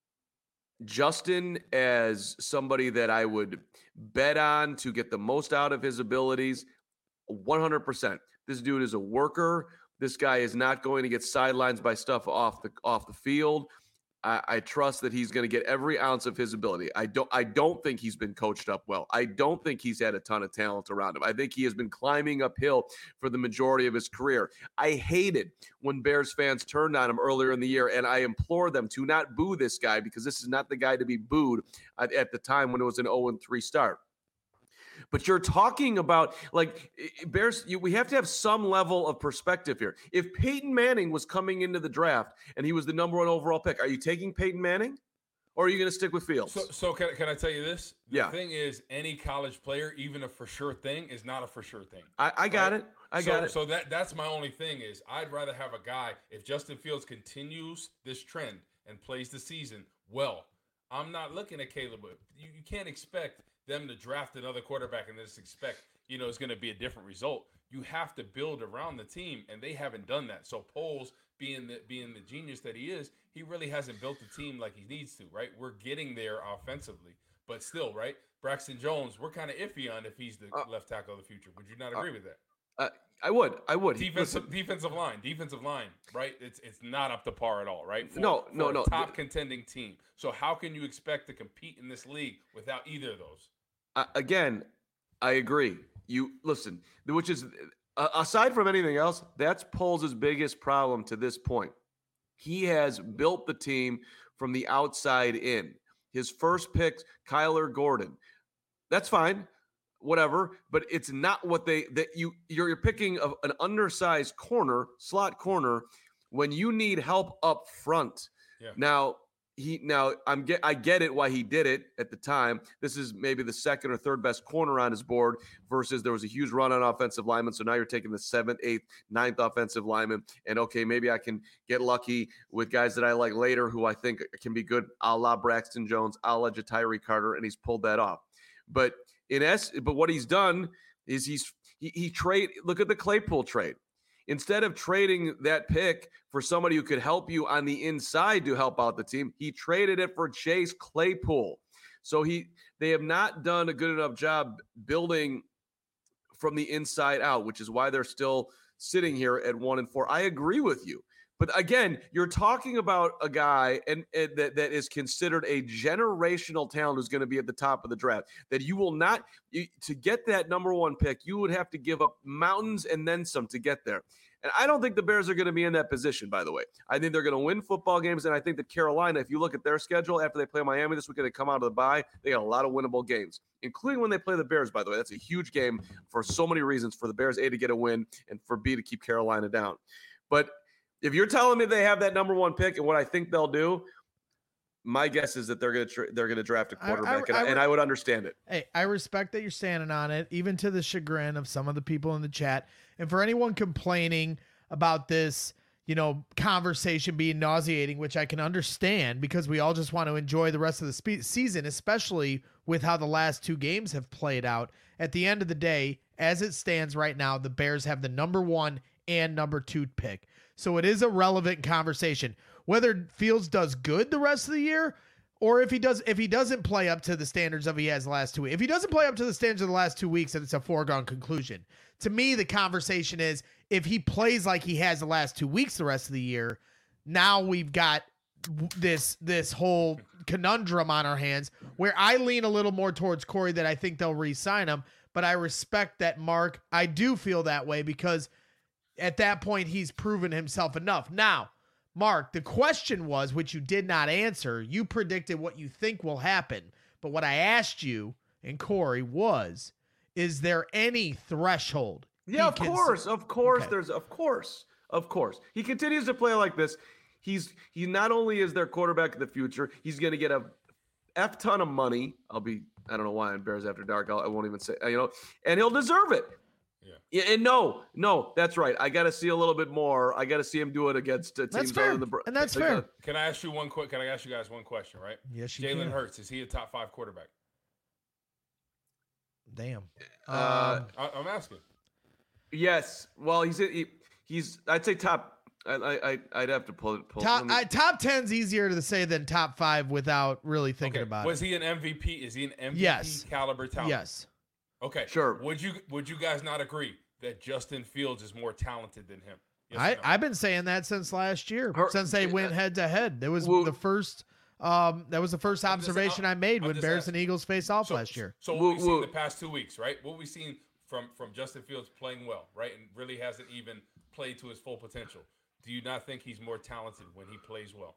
Justin as somebody that I would bet on to get the most out of his abilities. one hundred percent. This dude is a worker. This guy is not going to get sidelines by stuff off the off the field. I, I trust that he's going to get every ounce of his ability. I don't I don't think he's been coached up well. I don't think he's had a ton of talent around him. I think he has been climbing uphill for the majority of his career. I hated when Bears fans turned on him earlier in the year, and I implore them to not boo this guy because this is not the guy to be booed at, at the time when it was an oh and three start. But you're talking about like Bears. You, we have to have some level of perspective here. If Peyton Manning was coming into the draft and he was the number one overall pick, are you taking Peyton Manning, or are you going to stick with Fields? So, so can, can I tell you this? The Yeah. thing is, any college player, even a for sure thing, is not a for sure thing. I, I got Right? it. I so, got it. So that that's my only thing is I'd rather have a guy if Justin Fields continues this trend and plays the season well. I'm not looking at Caleb. You, you can't expect them to draft another quarterback and just expect, you know, it's going to be a different result. You have to build around the team, and they haven't done that. So Poles, being the being the genius that he is, he really hasn't built the team like he needs to, right? We're getting there offensively, but still, right? Braxton Jones, we're kind of iffy on if he's the Uh, left tackle of the future. Would you not agree with that? Uh, I would. I would. He- Defensive listen, defensive line, defensive line, right? It's it's not up to par at all, right? For, No, no, for a no. top contending team. So how can you expect to compete in this league without either of those? uh, again, I agree. You listen, which is uh, aside from anything else, that's Poles' biggest problem to this point. He has built the team from the outside in. His first pick, Kyler Gordon. That's fine. Whatever, but it's not what they that you you're, you're picking a, an undersized corner, slot corner, when you need help up front. Yeah. Now he now I'm get I get it why he did it at the time. This is maybe the second or third best corner on his board versus there was a huge run on offensive linemen. So now you're taking the seventh, eighth, ninth offensive lineman, and okay, maybe I can get lucky with guys that I like later who I think can be good, a la Braxton Jones, a la Jatiri Carter, and he's pulled that off. But in S, but what he's done is he's he, he trade. Look at the Claypool trade. Instead of trading that pick for somebody who could help you on the inside to help out the team, he traded it for Chase Claypool. So he they have not done a good enough job building from the inside out, which is why they're still sitting here at one and four. I agree with you. But again, you're talking about a guy and, and that, that is considered a generational talent who's going to be at the top of the draft. That you will not you, to get that number one pick, you would have to give up mountains and then some to get there. And I don't think the Bears are going to be in that position, by the way. I think they're going to win football games, and I think that Carolina, if you look at their schedule after they play Miami this weekend, they come out of the bye, they got a lot of winnable games, including when they play the Bears, by the way. That's a huge game for so many reasons, for the Bears, A, to get a win, and for B, to keep Carolina down. But if you're telling me they have that number one pick and what I think they'll do, my guess is that they're going to tra- they're going to draft a quarterback, I- I- and, I, and I would understand it. Hey, I respect that you're standing on it, even to the chagrin of some of the people in the chat. And for anyone complaining about this, you know, conversation being nauseating, which I can understand because we all just want to enjoy the rest of the spe- season, especially with how the last two games have played out. At the end of the day, as it stands right now, the Bears have the number one and number two pick. So it is a relevant conversation. Whether Fields does good the rest of the year, or if he does, if he doesn't play up to the standards of he has the last two weeks, if he doesn't play up to the standards of the last two weeks, then it's a foregone conclusion. To me, the conversation is if he plays like he has the last two weeks the rest of the year, now we've got this this whole conundrum on our hands where I lean a little more towards Corey that I think they'll re-sign him, but I respect that, Mark. I do feel that way because at that point he's proven himself enough. Now, Mark, the question was, which you did not answer, you predicted what you think will happen. But what I asked you and Corey was, is there any threshold? Yeah, of can course. s- Of course. Okay. There's, of course. Of course. He continues to play like this. He's, he not only is their quarterback of the future, he's going to get a F ton of money. I'll be, I don't know why on Bears After Dark. I'll, I won't even say, you know, and he'll deserve it. Yeah. Yeah, and no, no, that's right. I got to see a little bit more. I got to see him do it against uh, teams That's other fair. than the. Br- And that's like, fair. uh, Can I ask you one quick? Can I ask you guys one question? Right? Yes, you Jalen can. Hurts, is he a top five quarterback? Damn. Uh, Um, I, I'm asking. Yes. Well, he's he, he's. I'd say top. I I Uh, I'd have to pull it. Pull, top let me- I, top ten's easier to say than top five without really thinking Okay. about Was it. he an M V P? Is he an M V P Yes. caliber talent? Yes. Okay. Sure. Would you Would you guys not agree that Justin Fields is more talented than him? Yes or I, no? I've been saying that since last year, Her- since they went head to head. That was Well- the first. Um, that was the first I'm just- observation I'm- I made I'm when just Bears asking. and Eagles faced off So- last year. So what Well, we've seen well- the past two weeks, right? What we've seen from from Justin Fields playing well, right, and really hasn't even played to his full potential. Do you not think he's more talented when he plays well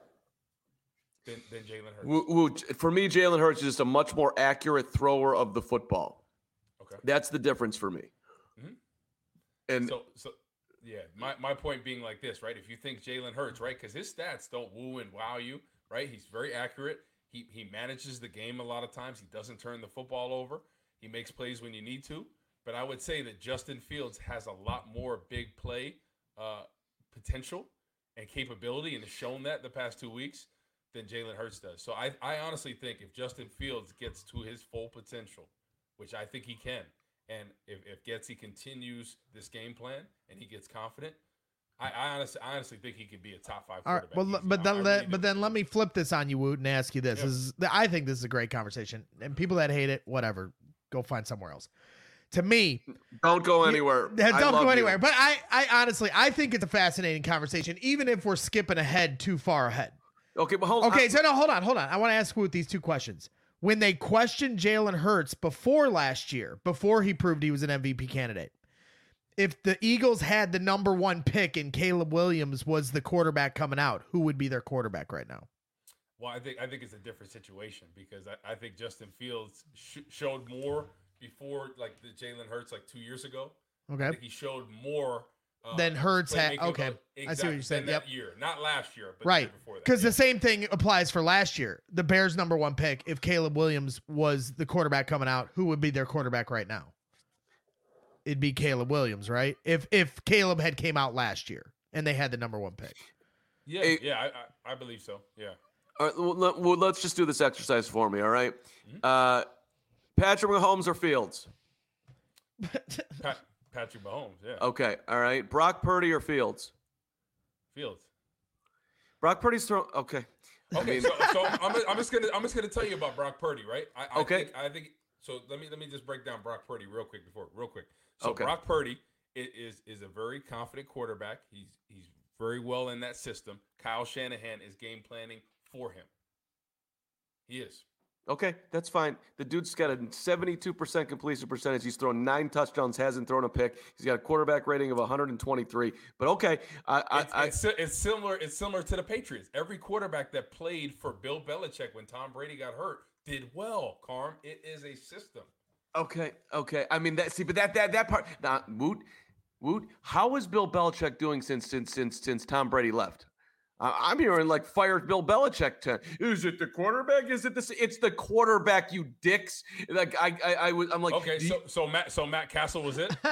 than, than Jalen Hurts? Woo- woo. For me, Jalen Hurts is just a much more accurate thrower of the football. Okay. That's the difference for me. Mhm. And So, so yeah, my, my point being like this, right? If you think Jalen Hurts, right, because his stats don't woo and wow you, right? He's very accurate. He he manages the game a lot of times. He doesn't turn the football over. He makes plays when you need to. But I would say that Justin Fields has a lot more big play uh, potential and capability, and has shown that the past two weeks than Jalen Hurts does. So I, I honestly think if Justin Fields gets to his full potential, which I think he can, and if, if Getsy continues this game plan and he gets confident, I, I honestly I honestly think he could be a top five All right, quarterback. well, easy. but I- then I let, really but do. then let me flip this on you, Woot, and ask you this. Yeah. This is I think this is a great conversation, and people that hate it, whatever, go find somewhere else. To me, don't go anywhere. Yeah, I don't love go you. anywhere. But I, I honestly, I think it's a fascinating conversation, even if we're skipping ahead too far ahead. Okay, but hold on. Okay, so no, hold on, hold on. I want to ask Woot these two questions. When they questioned Jalen Hurts before last year, before he proved he was an M V P candidate, if the Eagles had the number one pick and Caleb Williams was the quarterback coming out, who would be their quarterback right now? Well, I think I think it's a different situation because I, I think Justin Fields sh- showed more before, like the Jalen Hurts, like two years ago. I Okay. think he showed more uh, Then Hurts had- playmaking okay. ability- I see what exactly, you're saying. than Yep. that year, not last year, but Right. the year before that. Because Yeah. the same thing applies for last year. The Bears' number one pick, if Caleb Williams was the quarterback coming out, who would be their quarterback right now? It'd be Caleb Williams, right? If if Caleb had came out last year and they had the number one pick. yeah, Hey- yeah, I, I, I believe so. Yeah. All right, well, let, well, let's just do this exercise for me, all right? Mhm. Uh, Patrick Mahomes or Fields? Pat, Patrick Mahomes, yeah. Okay, all right. Brock Purdy or Fields? Fields. Brock Purdy's throw. Okay. I Okay, mean- so, so I'm, I'm just gonna I'm just gonna tell you about Brock Purdy, right? I, I Okay. Think, I think so. Let me let me just break down Brock Purdy real quick before real quick. So Okay. Brock Purdy i- is is a very confident quarterback. He's he's very well in that system. Kyle Shanahan is game planning for him. He is. Okay, that's fine. The dude's got a seventy-two percent completion percentage. He's thrown nine touchdowns, hasn't thrown a pick. He's got a quarterback rating of one hundred twenty-three. But okay, I, I, It's, I it's, si- it's similar. It's similar to the Patriots. Every quarterback that played for Bill Belichick when Tom Brady got hurt did well. Carm, it is a system. okay, okay. I mean that. See, but that that that part. Now, Woot, Woot. How is Bill Belichick doing since since since since Tom Brady left? I- I'm hearing like fire Bill Belichick. To, is it the quarterback? Is it the? It's the quarterback, you dicks. Like I, I, I was. I'm like, Okay, do you- so so Matt so Matt Castle was it?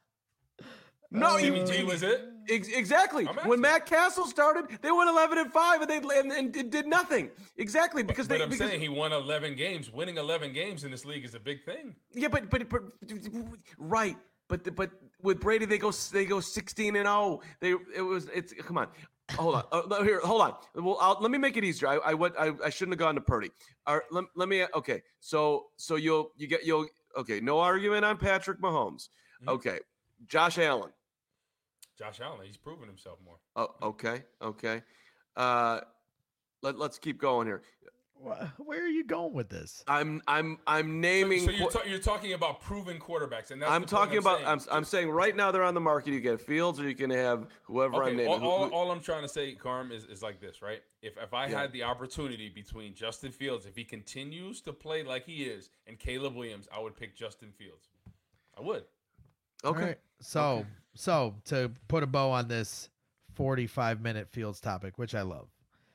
no, Jimmy you- G was it? Ex- exactly. I'm When asking. Matt Castle started, they went eleven and five, and they and, and did- did nothing. Exactly because But they. I'm because, saying he won eleven games. Winning eleven games in this league is a big thing. yeah, but, but but right. But the- but with Brady, they go they go sixteen and oh. They it was it's come on. Hold on. Uh, no, here, hold on. Well, I'll, let me make it easier. I I went. I, I shouldn't have gone to Purdy. All right, let, let me. Okay. So so you'll you get you'll okay. No argument on Patrick Mahomes. Mhm. Okay. Josh Allen. Josh Allen, he's proven himself more. Oh, okay, okay. Uh, let, let's keep going here. Where are you going with this? I'm I'm I'm naming. So, so you're, ta- you're talking about proven quarterbacks, and that's I'm the talking point I'm about. saying. I'm I'm saying right now they're on the market. You get Fields, or you can have whoever Okay, I'm naming. all, Who- all, who- all I'm trying to say, Carm, is, is like this, right? If if I Yeah. had the opportunity between Justin Fields, if he continues to play like he is, and Caleb Williams, I would pick Justin Fields. I would. okay. All right. So, Okay. so to put a bow on this forty-five minute Fields topic, which I love.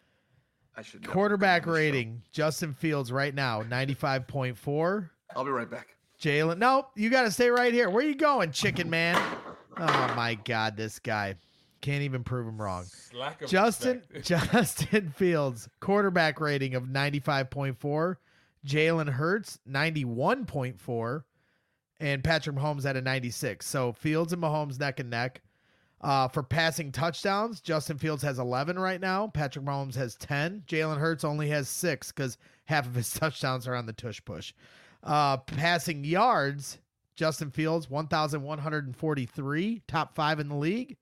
I should never Quarterback come on this show. rating, Justin Fields right now, ninety-five point four. I'll be right back. Jalen, no, you got to stay right here. Where you going, chicken man? Oh my God, this guy can't even prove him wrong. Lack of Justin respect. Justin Fields quarterback rating of ninety-five point four. Jalen Hurts ninety-one point four, and Patrick Mahomes at a ninety-six. So Fields and Mahomes neck and neck. Uh, for passing touchdowns, Justin Fields has eleven right now. Patrick Mahomes has ten. Jalen Hurts only has six because half of his touchdowns are on the tush push. Uh, passing yards, Justin Fields one thousand one hundred forty-three, top five in the league.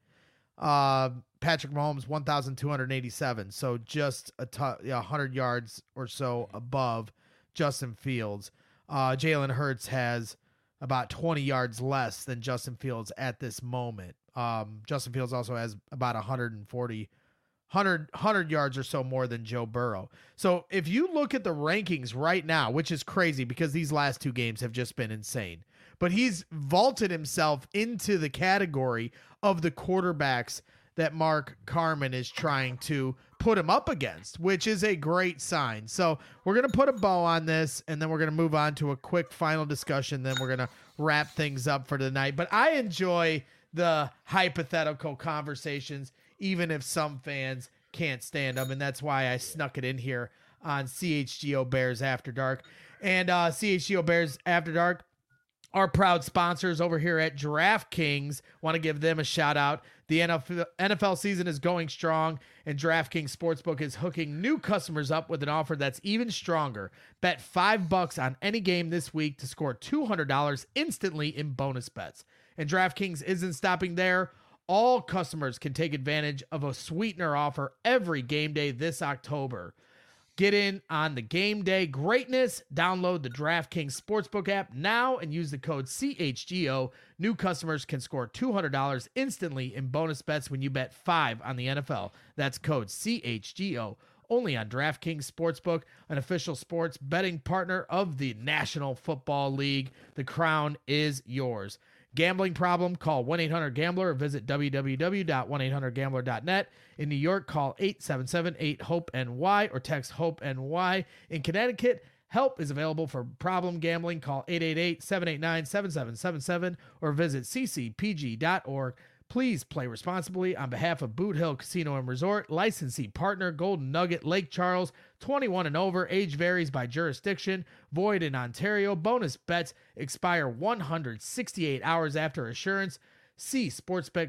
Uh, Patrick Mahomes one thousand two hundred eighty-seven, so just a t- yeah, one hundred yards or so above Justin Fields. Uh, Jalen Hurts has about twenty yards less than Justin Fields at this moment. Um, Justin Fields also has about one hundred forty, one hundred, one hundred yards or so more than Joe Burrow. So if you look at the rankings right now, which is crazy because these last two games have just been insane, but he's vaulted himself into the category of the quarterbacks that Mark Carman is trying to put him up against, which is a great sign. So we're going to put a bow on this, and then we're going to move on to a quick final discussion. Then we're going to wrap things up for tonight. But I enjoy the hypothetical conversations, even if some fans can't stand them. And that's why I snuck it in here on C H G O Bears After Dark. And uh, C H G O Bears After Dark, our proud sponsors over here at DraftKings. Want to give them a shout out. The N F L season is going strong, and DraftKings Sportsbook is hooking new customers up with an offer that's even stronger. Bet five bucks on any game this week to score two hundred dollars instantly in bonus bets. And DraftKings isn't stopping there. All customers can take advantage of a sweetener offer every game day this October. Get in on the game day greatness. Download the DraftKings Sportsbook app now and use the code C H G O. New customers can score two hundred dollars instantly in bonus bets when you bet five on the N F L. That's code C H G O. Only on DraftKings Sportsbook, an official sports betting partner of the National Football League. The crown is yours. Gambling problem? Call one eight hundred gambler or visit w w w dot one eight hundred gambler dot net. In New York, call eight seven seven eight hope N Y or text HOPE-N Y. In Connecticut, help is available for problem gambling. Call eight eight eight seven eight nine seven seven seven seven or visit c c p g dot org. Please play responsibly on behalf of Boot Hill Casino and Resort. Licensee partner Golden Nugget Lake Charles. twenty-one and over. Age varies by jurisdiction. Void in Ontario. Bonus bets expire one hundred sixty-eight hours after assurance. See sportsbook,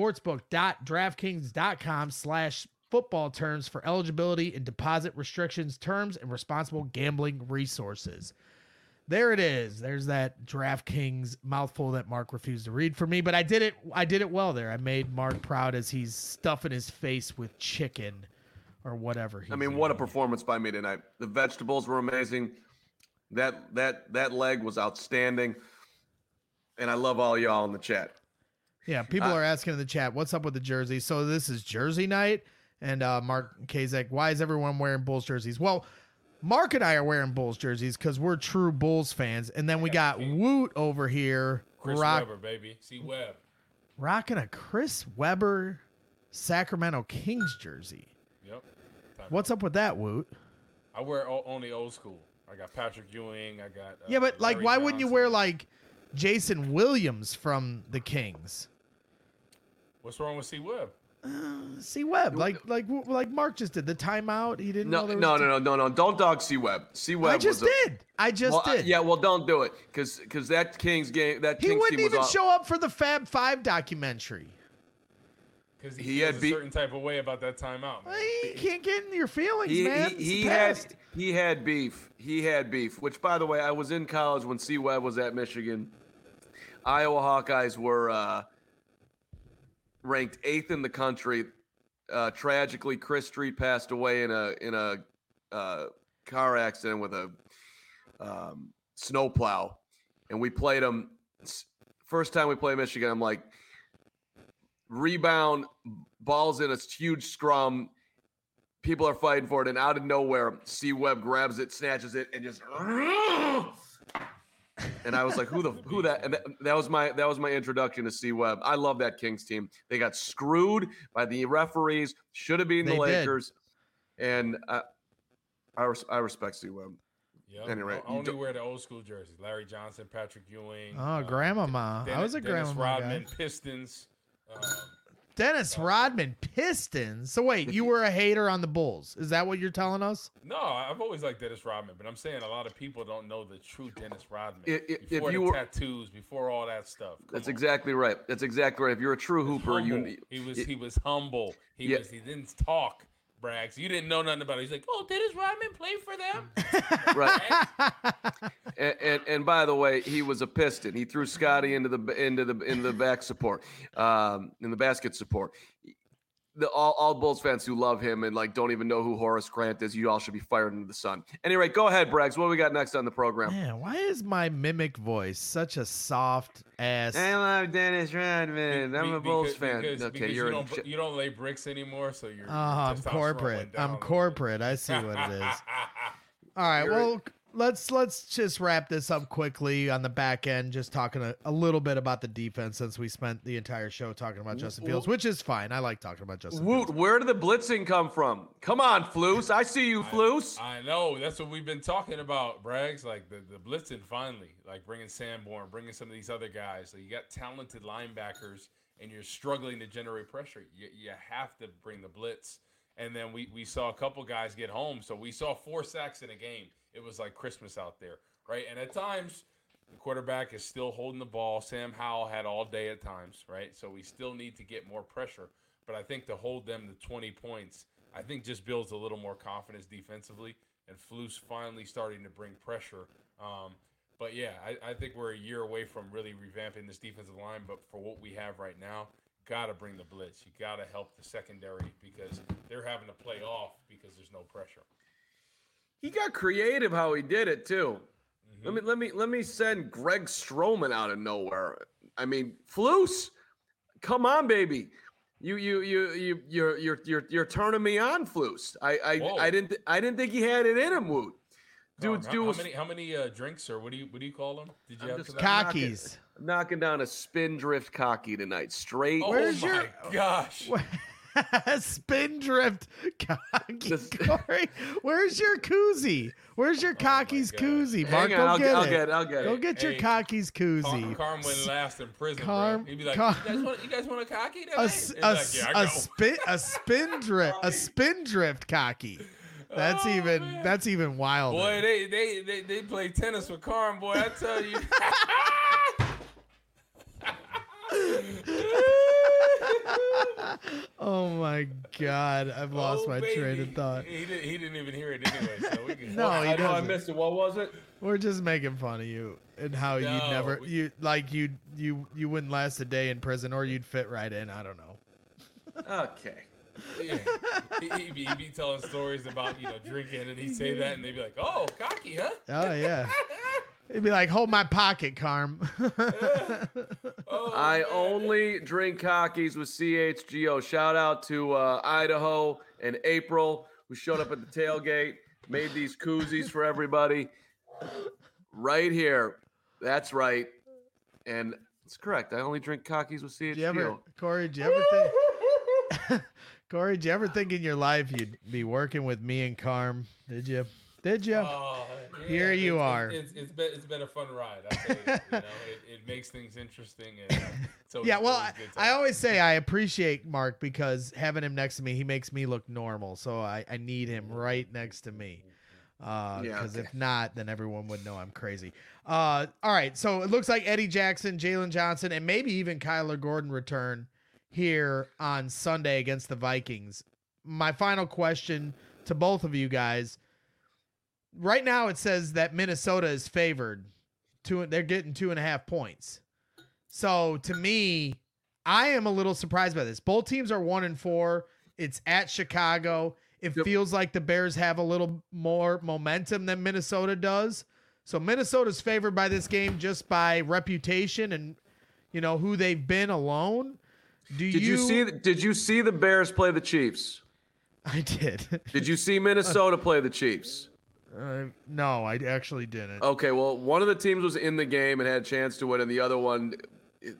sportsbook.draftkings.com slash football terms for eligibility and deposit restrictions, terms, and responsible gambling resources. There it is. There's that DraftKings mouthful that Mark refused to read for me, but I did it. I did it well there. I made Mark proud as he's stuffing his face with chicken or whatever. He's I mean, what a eating. performance by me tonight. The vegetables were amazing. That that that leg was outstanding, and I love all y'all in the chat. Yeah, people Uh, are asking in the chat, what's up with the jersey? So this is Jersey night, and uh, Mark Kazak, why is everyone wearing Bulls jerseys? Well, Mark and I are wearing Bulls jerseys because we're true Bulls fans, and then we got Woot over here Chris rock, Webber, baby. See Webb. rocking a Chris Webber Sacramento Kings jersey. Yep. What's up with that, Woot? I wear o- only old school. I got Patrick Ewing. I got. Uh, Yeah, but like, Larry why wouldn't you Johnson. wear like Jason Williams from the Kings? What's wrong with C Webb? See Webb, like like like Mark just did the timeout. He didn't know No, there was no, a no, no, no, no. Don't dog C Webb. C Webb. I just was a, did. I just well, I- did. yeah, well, don't do it because because that Kings game, that He Kings wouldn't team was even all, show up for the Fab Five documentary. Because he, He feels had a beat- certain type of way about that timeout. Man. You can't get in your feelings, He, man. he, It's he the had past. he had beef. He had beef. Which, by the way, I was in college when C Webb was at Michigan. Iowa Hawkeyes were uh, ranked eighth in the country. Uh, tragically, Chris Street passed away in a in a uh, car accident with a um, snowplow, and we played them. First time we played Michigan, I'm like, rebound, balls in a huge scrum. People are fighting for it, and out of nowhere, C. Webb grabs it, snatches it, and just. And I was like, "Who the who that?" And that, that was my that was my introduction to C. Webb. I love that Kings team. They got screwed by the referees. Should have been the They Lakers, did. and uh, I res- I respect C. Webb. Yep. Anyway, I only wear the old school jerseys. Larry Johnson, Patrick Ewing. Oh, uh, grandmama. Den- I was a Dennis grandmama Rodman, guy. Pistons. Um, Dennis Rodman Pistons. So wait, you were a hater on the Bulls. Is that what you're telling us? no, I've always liked Dennis Rodman, but I'm saying a lot of people don't know the true Dennis Rodman. If- if before you the were- tattoos, before all that stuff. Come That's on. exactly right. That's exactly right. If you're a true hooper, Humble. you he was y- he was humble. He Yeah. was he didn't talk. Brags. You didn't know nothing about it. He's like, oh, Dennis Rodman played for them. right. and, and and by the way, he was a Piston. He threw Scotty into the into the into the back support, um, in the basket support. The all, all Bulls fans who love him and like don't even know who Horace Grant is, you all should be fired into the sun. Anyway, go ahead, Braggs. What do we got next on the program? Man, why is my mimic voice such a soft ass? I love Dennis Rodman. I'm Be- a Bulls because- fan. because- okay, because you're you a don't you don't lay bricks anymore, so you're. Oh, I'm corporate. I'm corporate. I see what it is. All right. You're- Well, let's let's just wrap this up quickly on the back end. Just talking a, a little bit about the defense since we spent the entire show talking about Justin Fields, which is fine. I like talking about Justin Woot, Fields. where did the blitzing come from? Come on, Floos. I see you, Floos. I know. That's what we've been talking about, Braggs. Like the, the blitzing finally, like bringing Sanborn, bringing some of these other guys. So you got talented linebackers and you're struggling to generate pressure. You, you have to bring the blitz. And then we, we saw a couple guys get home. So we saw four sacks in a game. It was like Christmas out there, right? And at times, the quarterback is still holding the ball. Sam Howell had all day at times, right? So we still need to get more pressure. But I think to hold them to twenty points, I think just builds a little more confidence defensively. And Flus finally starting to bring pressure. Um, but, yeah, I, I think we're a year away from really revamping this defensive line. But for what we have right now, got to bring the blitz. You got to help the secondary because they're having to play off because there's no pressure. He got creative how he did it too. Mm-hmm. Let me let me let me send Greg Stroman out of nowhere. I mean, Floos, come on, baby. You you you you you're you're you're you're turning me on, Floos. I I, Whoa. I didn't I didn't think he had it in him, Woot. Dude's How, dude how was many how many uh, drinks or what do you what do you call them? Did you I'm have just tonight? Cockies. knocking down a spin drift cocky tonight. Straight. Oh Where's my your- gosh! Spindrift cocky. Just- Corey, where's your koozie? Where's your cockies God. koozie? Mark, Hang go on, I'll get, get, I'll it. get it. I'll get Go it. get your Hey, cockies Carm, koozie. Carm wouldn't last in prison, Carm- bro. He'd be like, Carm- you, guys want, you guys want a cocky tonight? A, He'd s- be a, like, s- yeah, I a go. spin a spindrift a spindrift cocky. That's Oh, even man. that's even wilder. Boy, they, they they they play tennis with Carm, boy. I tell you. Oh my god, I've lost Oh, my train baby. of thought. He, did, he didn't even hear it anyway, so we can. No, I he know I doesn't. missed it. What was it? We're just making fun of you and how you'd No, never we- you like you you you wouldn't last a day in prison or you'd fit right in. I don't know. Okay. Yeah. He, he'd, be, he'd be telling stories about you know drinking, and he'd say that, and they'd be like, "Oh, cocky, huh?" Oh yeah. It'd be like, hold my pocket, Carm. Oh, I man. only drink cockies with C H G O. Shout out to uh, Idaho and April, who showed up at the tailgate, made these koozies for everybody. Right here. That's right. And it's correct. I only drink cockies with C H Did G O. you ever, Corey? Did you ever think, Corey? Did you ever think in your life you'd be working with me and Carm? Did you? Did you? Oh, yeah, Here you it's, are. It's, it's, it's been it's been a fun ride. I tell you, you know, it, it makes things interesting. And, uh, it's always- Yeah, well, always I, a good I time. always say I appreciate Mark because having him next to me, he makes me look normal. So I, I need him right next to me. Because uh, Yeah, okay. if not, then everyone would know I'm crazy. Uh, all right, so it looks like Eddie Jackson, Jalen Johnson, and maybe even Kyler Gordon return here on Sunday against the Vikings. My final question to both of you guys. Right now it says that Minnesota is favored. Two, they're getting two and a half points. So to me, I am a little surprised by this. Both teams are one and four. It's at Chicago. it Yep. feels like the Bears have a little more momentum than Minnesota does. So Minnesota's favored by this game just by reputation and, you know, who they've been alone. Do Did you, see? Did you see the Bears play the Chiefs? I did. Did you see Minnesota play the Chiefs? Uh, no, I actually didn't. Okay, well, one of the teams was in the game and had a chance to win, and the other one it,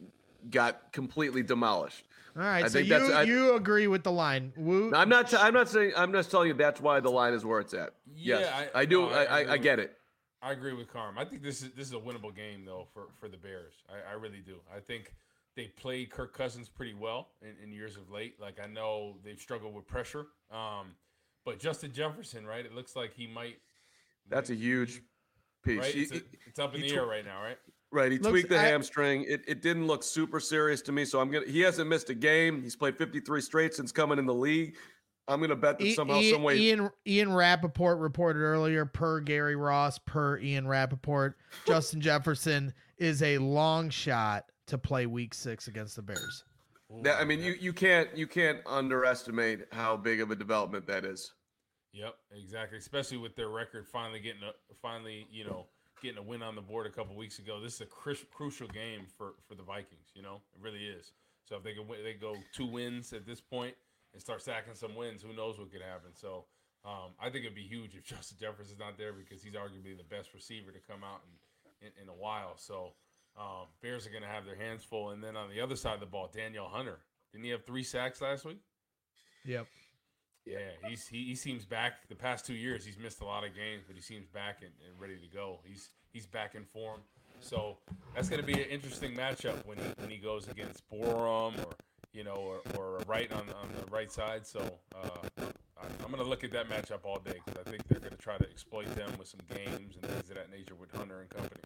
got completely demolished. All right, I so think you that's- I- you agree with the line? Woo, I'm not. T- I'm not saying. I'm just telling you that's why the line is where it's at. Yeah, yes, I- I, do. no, I I, I, agree I with- get it. I agree with Carm. I think this is this is a winnable game though for, for the Bears. I, I really do. I think they played Kirk Cousins pretty well in, in years of late. Like I know they've struggled with pressure. Um, but Justin Jefferson, right? It looks like he might. That's a huge piece. Right. He- It's, a, he- it's up in he the tw- air right now, right? Right, he Looks- tweaked the I- hamstring. It, it didn't look super serious to me, so I'm gonna. He hasn't missed a game. He's played fifty-three straight since coming in the league. I'm gonna bet that I- somehow, Ian, some way. Ian Ian Rappaport reported earlier, per Gary Ross, per Ian Rappaport, Justin Jefferson is a long shot to play Week Six against the Bears. That, I mean, you, you can't you can't underestimate how big of a development that is. Yep, exactly. Especially with their record finally getting a finally, you know, getting a win on the board a couple weeks ago. This is a cru- crucial game for, for the Vikings. You know, it really is. So if they can win, they go two wins at this point and start stacking some wins, who knows what could happen. So um, I think it'd be huge if Justin Jefferson's not there because he's arguably the best receiver to come out in, in, in a while. So um, Bears are going to have their hands full. And then on the other side of the ball, Daniel Hunter. Didn't he have three sacks last week? Yep. Yeah, he's he, he seems back. The past two years, he's missed a lot of games, but he seems back and, and ready to go. He's he's back in form. So that's going to be an interesting matchup when he when he goes against Borum or you know or, or Wright on on the right side. So uh, I, I'm going to look at that matchup all day because I think they're going to try to exploit them with some games and things of that nature with Hunter and company.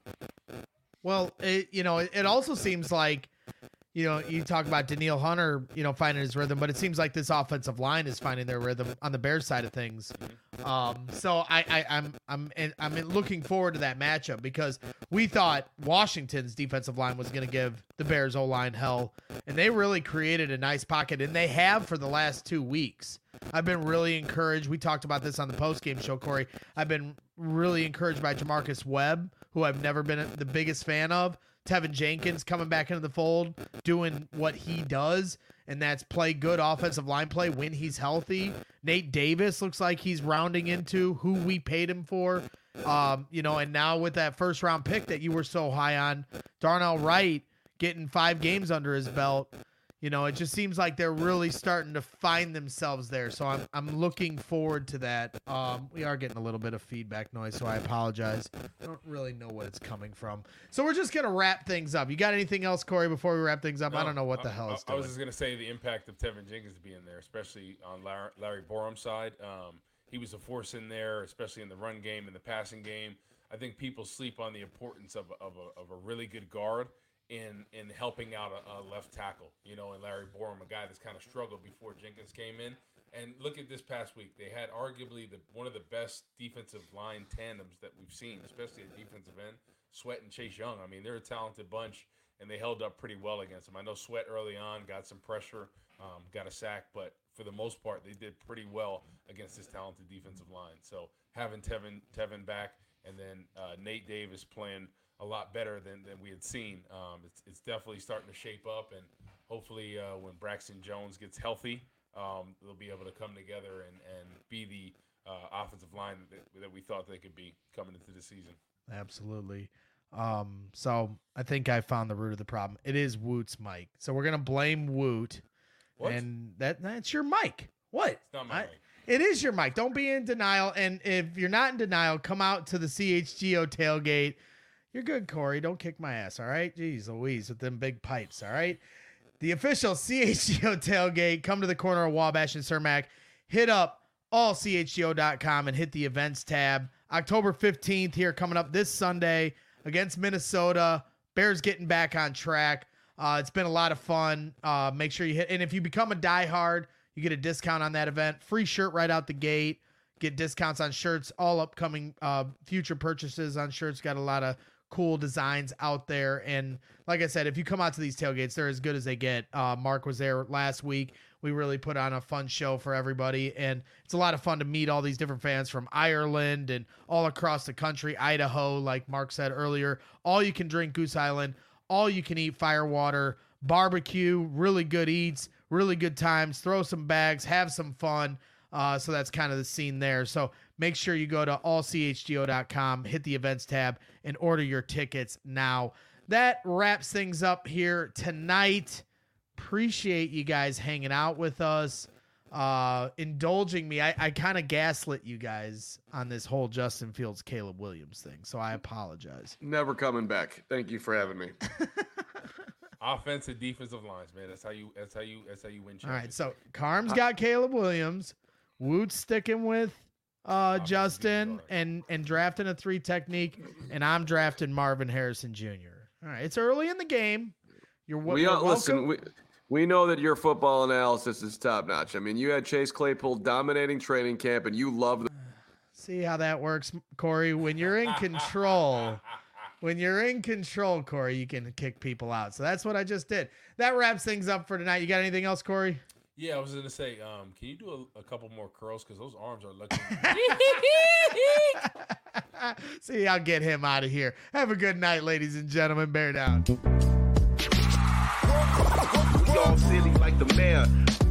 Well, it, you know, it, it also seems like, you know, you talk about Daniil Hunter, you know, finding his rhythm, but it seems like this offensive line is finding their rhythm on the Bears side of things. Um, so I, I, I'm, I'm, and I'm looking forward to that matchup because we thought Washington's defensive line was going to give the Bears O line hell, and they really created a nice pocket, and they have for the last two weeks. I've been really encouraged. We talked about this on the postgame show, Corey. I've been really encouraged by Jamarcus Webb, who I've never been the biggest fan of. Tevin Jenkins coming back into the fold, doing what he does, and that's play good offensive line play when he's healthy. Nate Davis looks like he's rounding into who we paid him for. Um, you know, and now with that first round pick that you were so high on, Darnell Wright getting five games under his belt. You know, it just seems like they're really starting to find themselves there. So I'm I'm looking forward to that. Um, we are getting a little bit of feedback noise, so I apologize. I don't really know what it's coming from. So we're just gonna wrap things up. You got anything else, Corey, before we wrap things up? I No, don't know what the I, hell I, it's I doing. was just going to say the impact of Tevin Jenkins being there, especially on Larry, Larry Borum's side. Um, he was a force in there, especially in the run game and the passing game. I think people sleep on the importance of, of, a, of a really good guard in in helping out a, a left tackle, you know, and Larry Borum, a guy that's kind of struggled before Jenkins came in. And look at this past week. They had arguably the one of the best defensive line tandems that we've seen, especially at defensive end, Sweat and Chase Young. I mean, they're a talented bunch, and they held up pretty well against them. I know Sweat early on got some pressure, um, got a sack, but for the most part, they did pretty well against this talented defensive line. So having Tevin, Tevin back and then uh, Nate Davis playing a lot better than, than we had seen. Um, it's, it's definitely starting to shape up, and hopefully uh, when Braxton Jones gets healthy, um, they'll be able to come together and, and be the uh, offensive line that, that we thought they could be coming into the season. Absolutely. Um, so I think I found the root of the problem. It is Woot's mic. So we're gonna blame Woot. What? And that that's your mic. What? It's not my I- mic. It is your mic. Don't be in denial. And if you're not in denial, come out to the C H G O tailgate. You're good, Corey. Don't kick my ass, all right? Jeez Louise with them big pipes, all right? The official C H G O tailgate. Come to the corner of Wabash and Cermak. Hit up all C H G O dot com and hit the events tab. October fifteenth here coming up this Sunday against Minnesota. Bears getting back on track. Uh, it's been a lot of fun. Uh, make sure you hit. And if you become a diehard, you get a discount on that event. Free shirt right out the gate. Get discounts on shirts. All upcoming uh, future purchases on shirts. Got a lot of cool designs out there. And like I said, if you come out to these tailgates, they're as good as they get. Uh, Mark was there last week. We really put on a fun show for everybody, and it's a lot of fun to meet all these different fans from Ireland and all across the country, Idaho, like Mark said earlier. All you can drink Goose Island, all you can eat Firewater, barbecue, really good eats, really good times, throw some bags, have some fun. Uh, so that's kind of the scene there. So make sure you go to all c h g o dot com, hit the events tab, and order your tickets now. That wraps things up here tonight. Appreciate you guys hanging out with us, uh, indulging me. I, I kind of gaslit you guys on this whole Justin Fields, Caleb Williams thing, so I apologize. Never coming back. Thank you for having me. Offensive, defensive lines, man. That's how you. That's how you. That's how you win. All right, so Carm's got Caleb Williams. Woot's sticking with uh, Justin and and drafting a three technique, and I'm drafting Marvin Harrison Junior All right, it's early in the game. You're, we you're are, listen. We, we know that your football analysis is top notch. I mean, you had Chase Claypool dominating training camp, and you love the. See how that works, Corey. When you're in control, when you're in control, Corey, you can kick people out. So that's what I just did. That wraps things up for tonight. You got anything else, Corey? Yeah, I was gonna say, um, can you do a, a couple more curls because those arms are looking. See, I'll get him out of here. Have a good night, ladies and gentlemen. Bear down. Y'all silly like the mayor.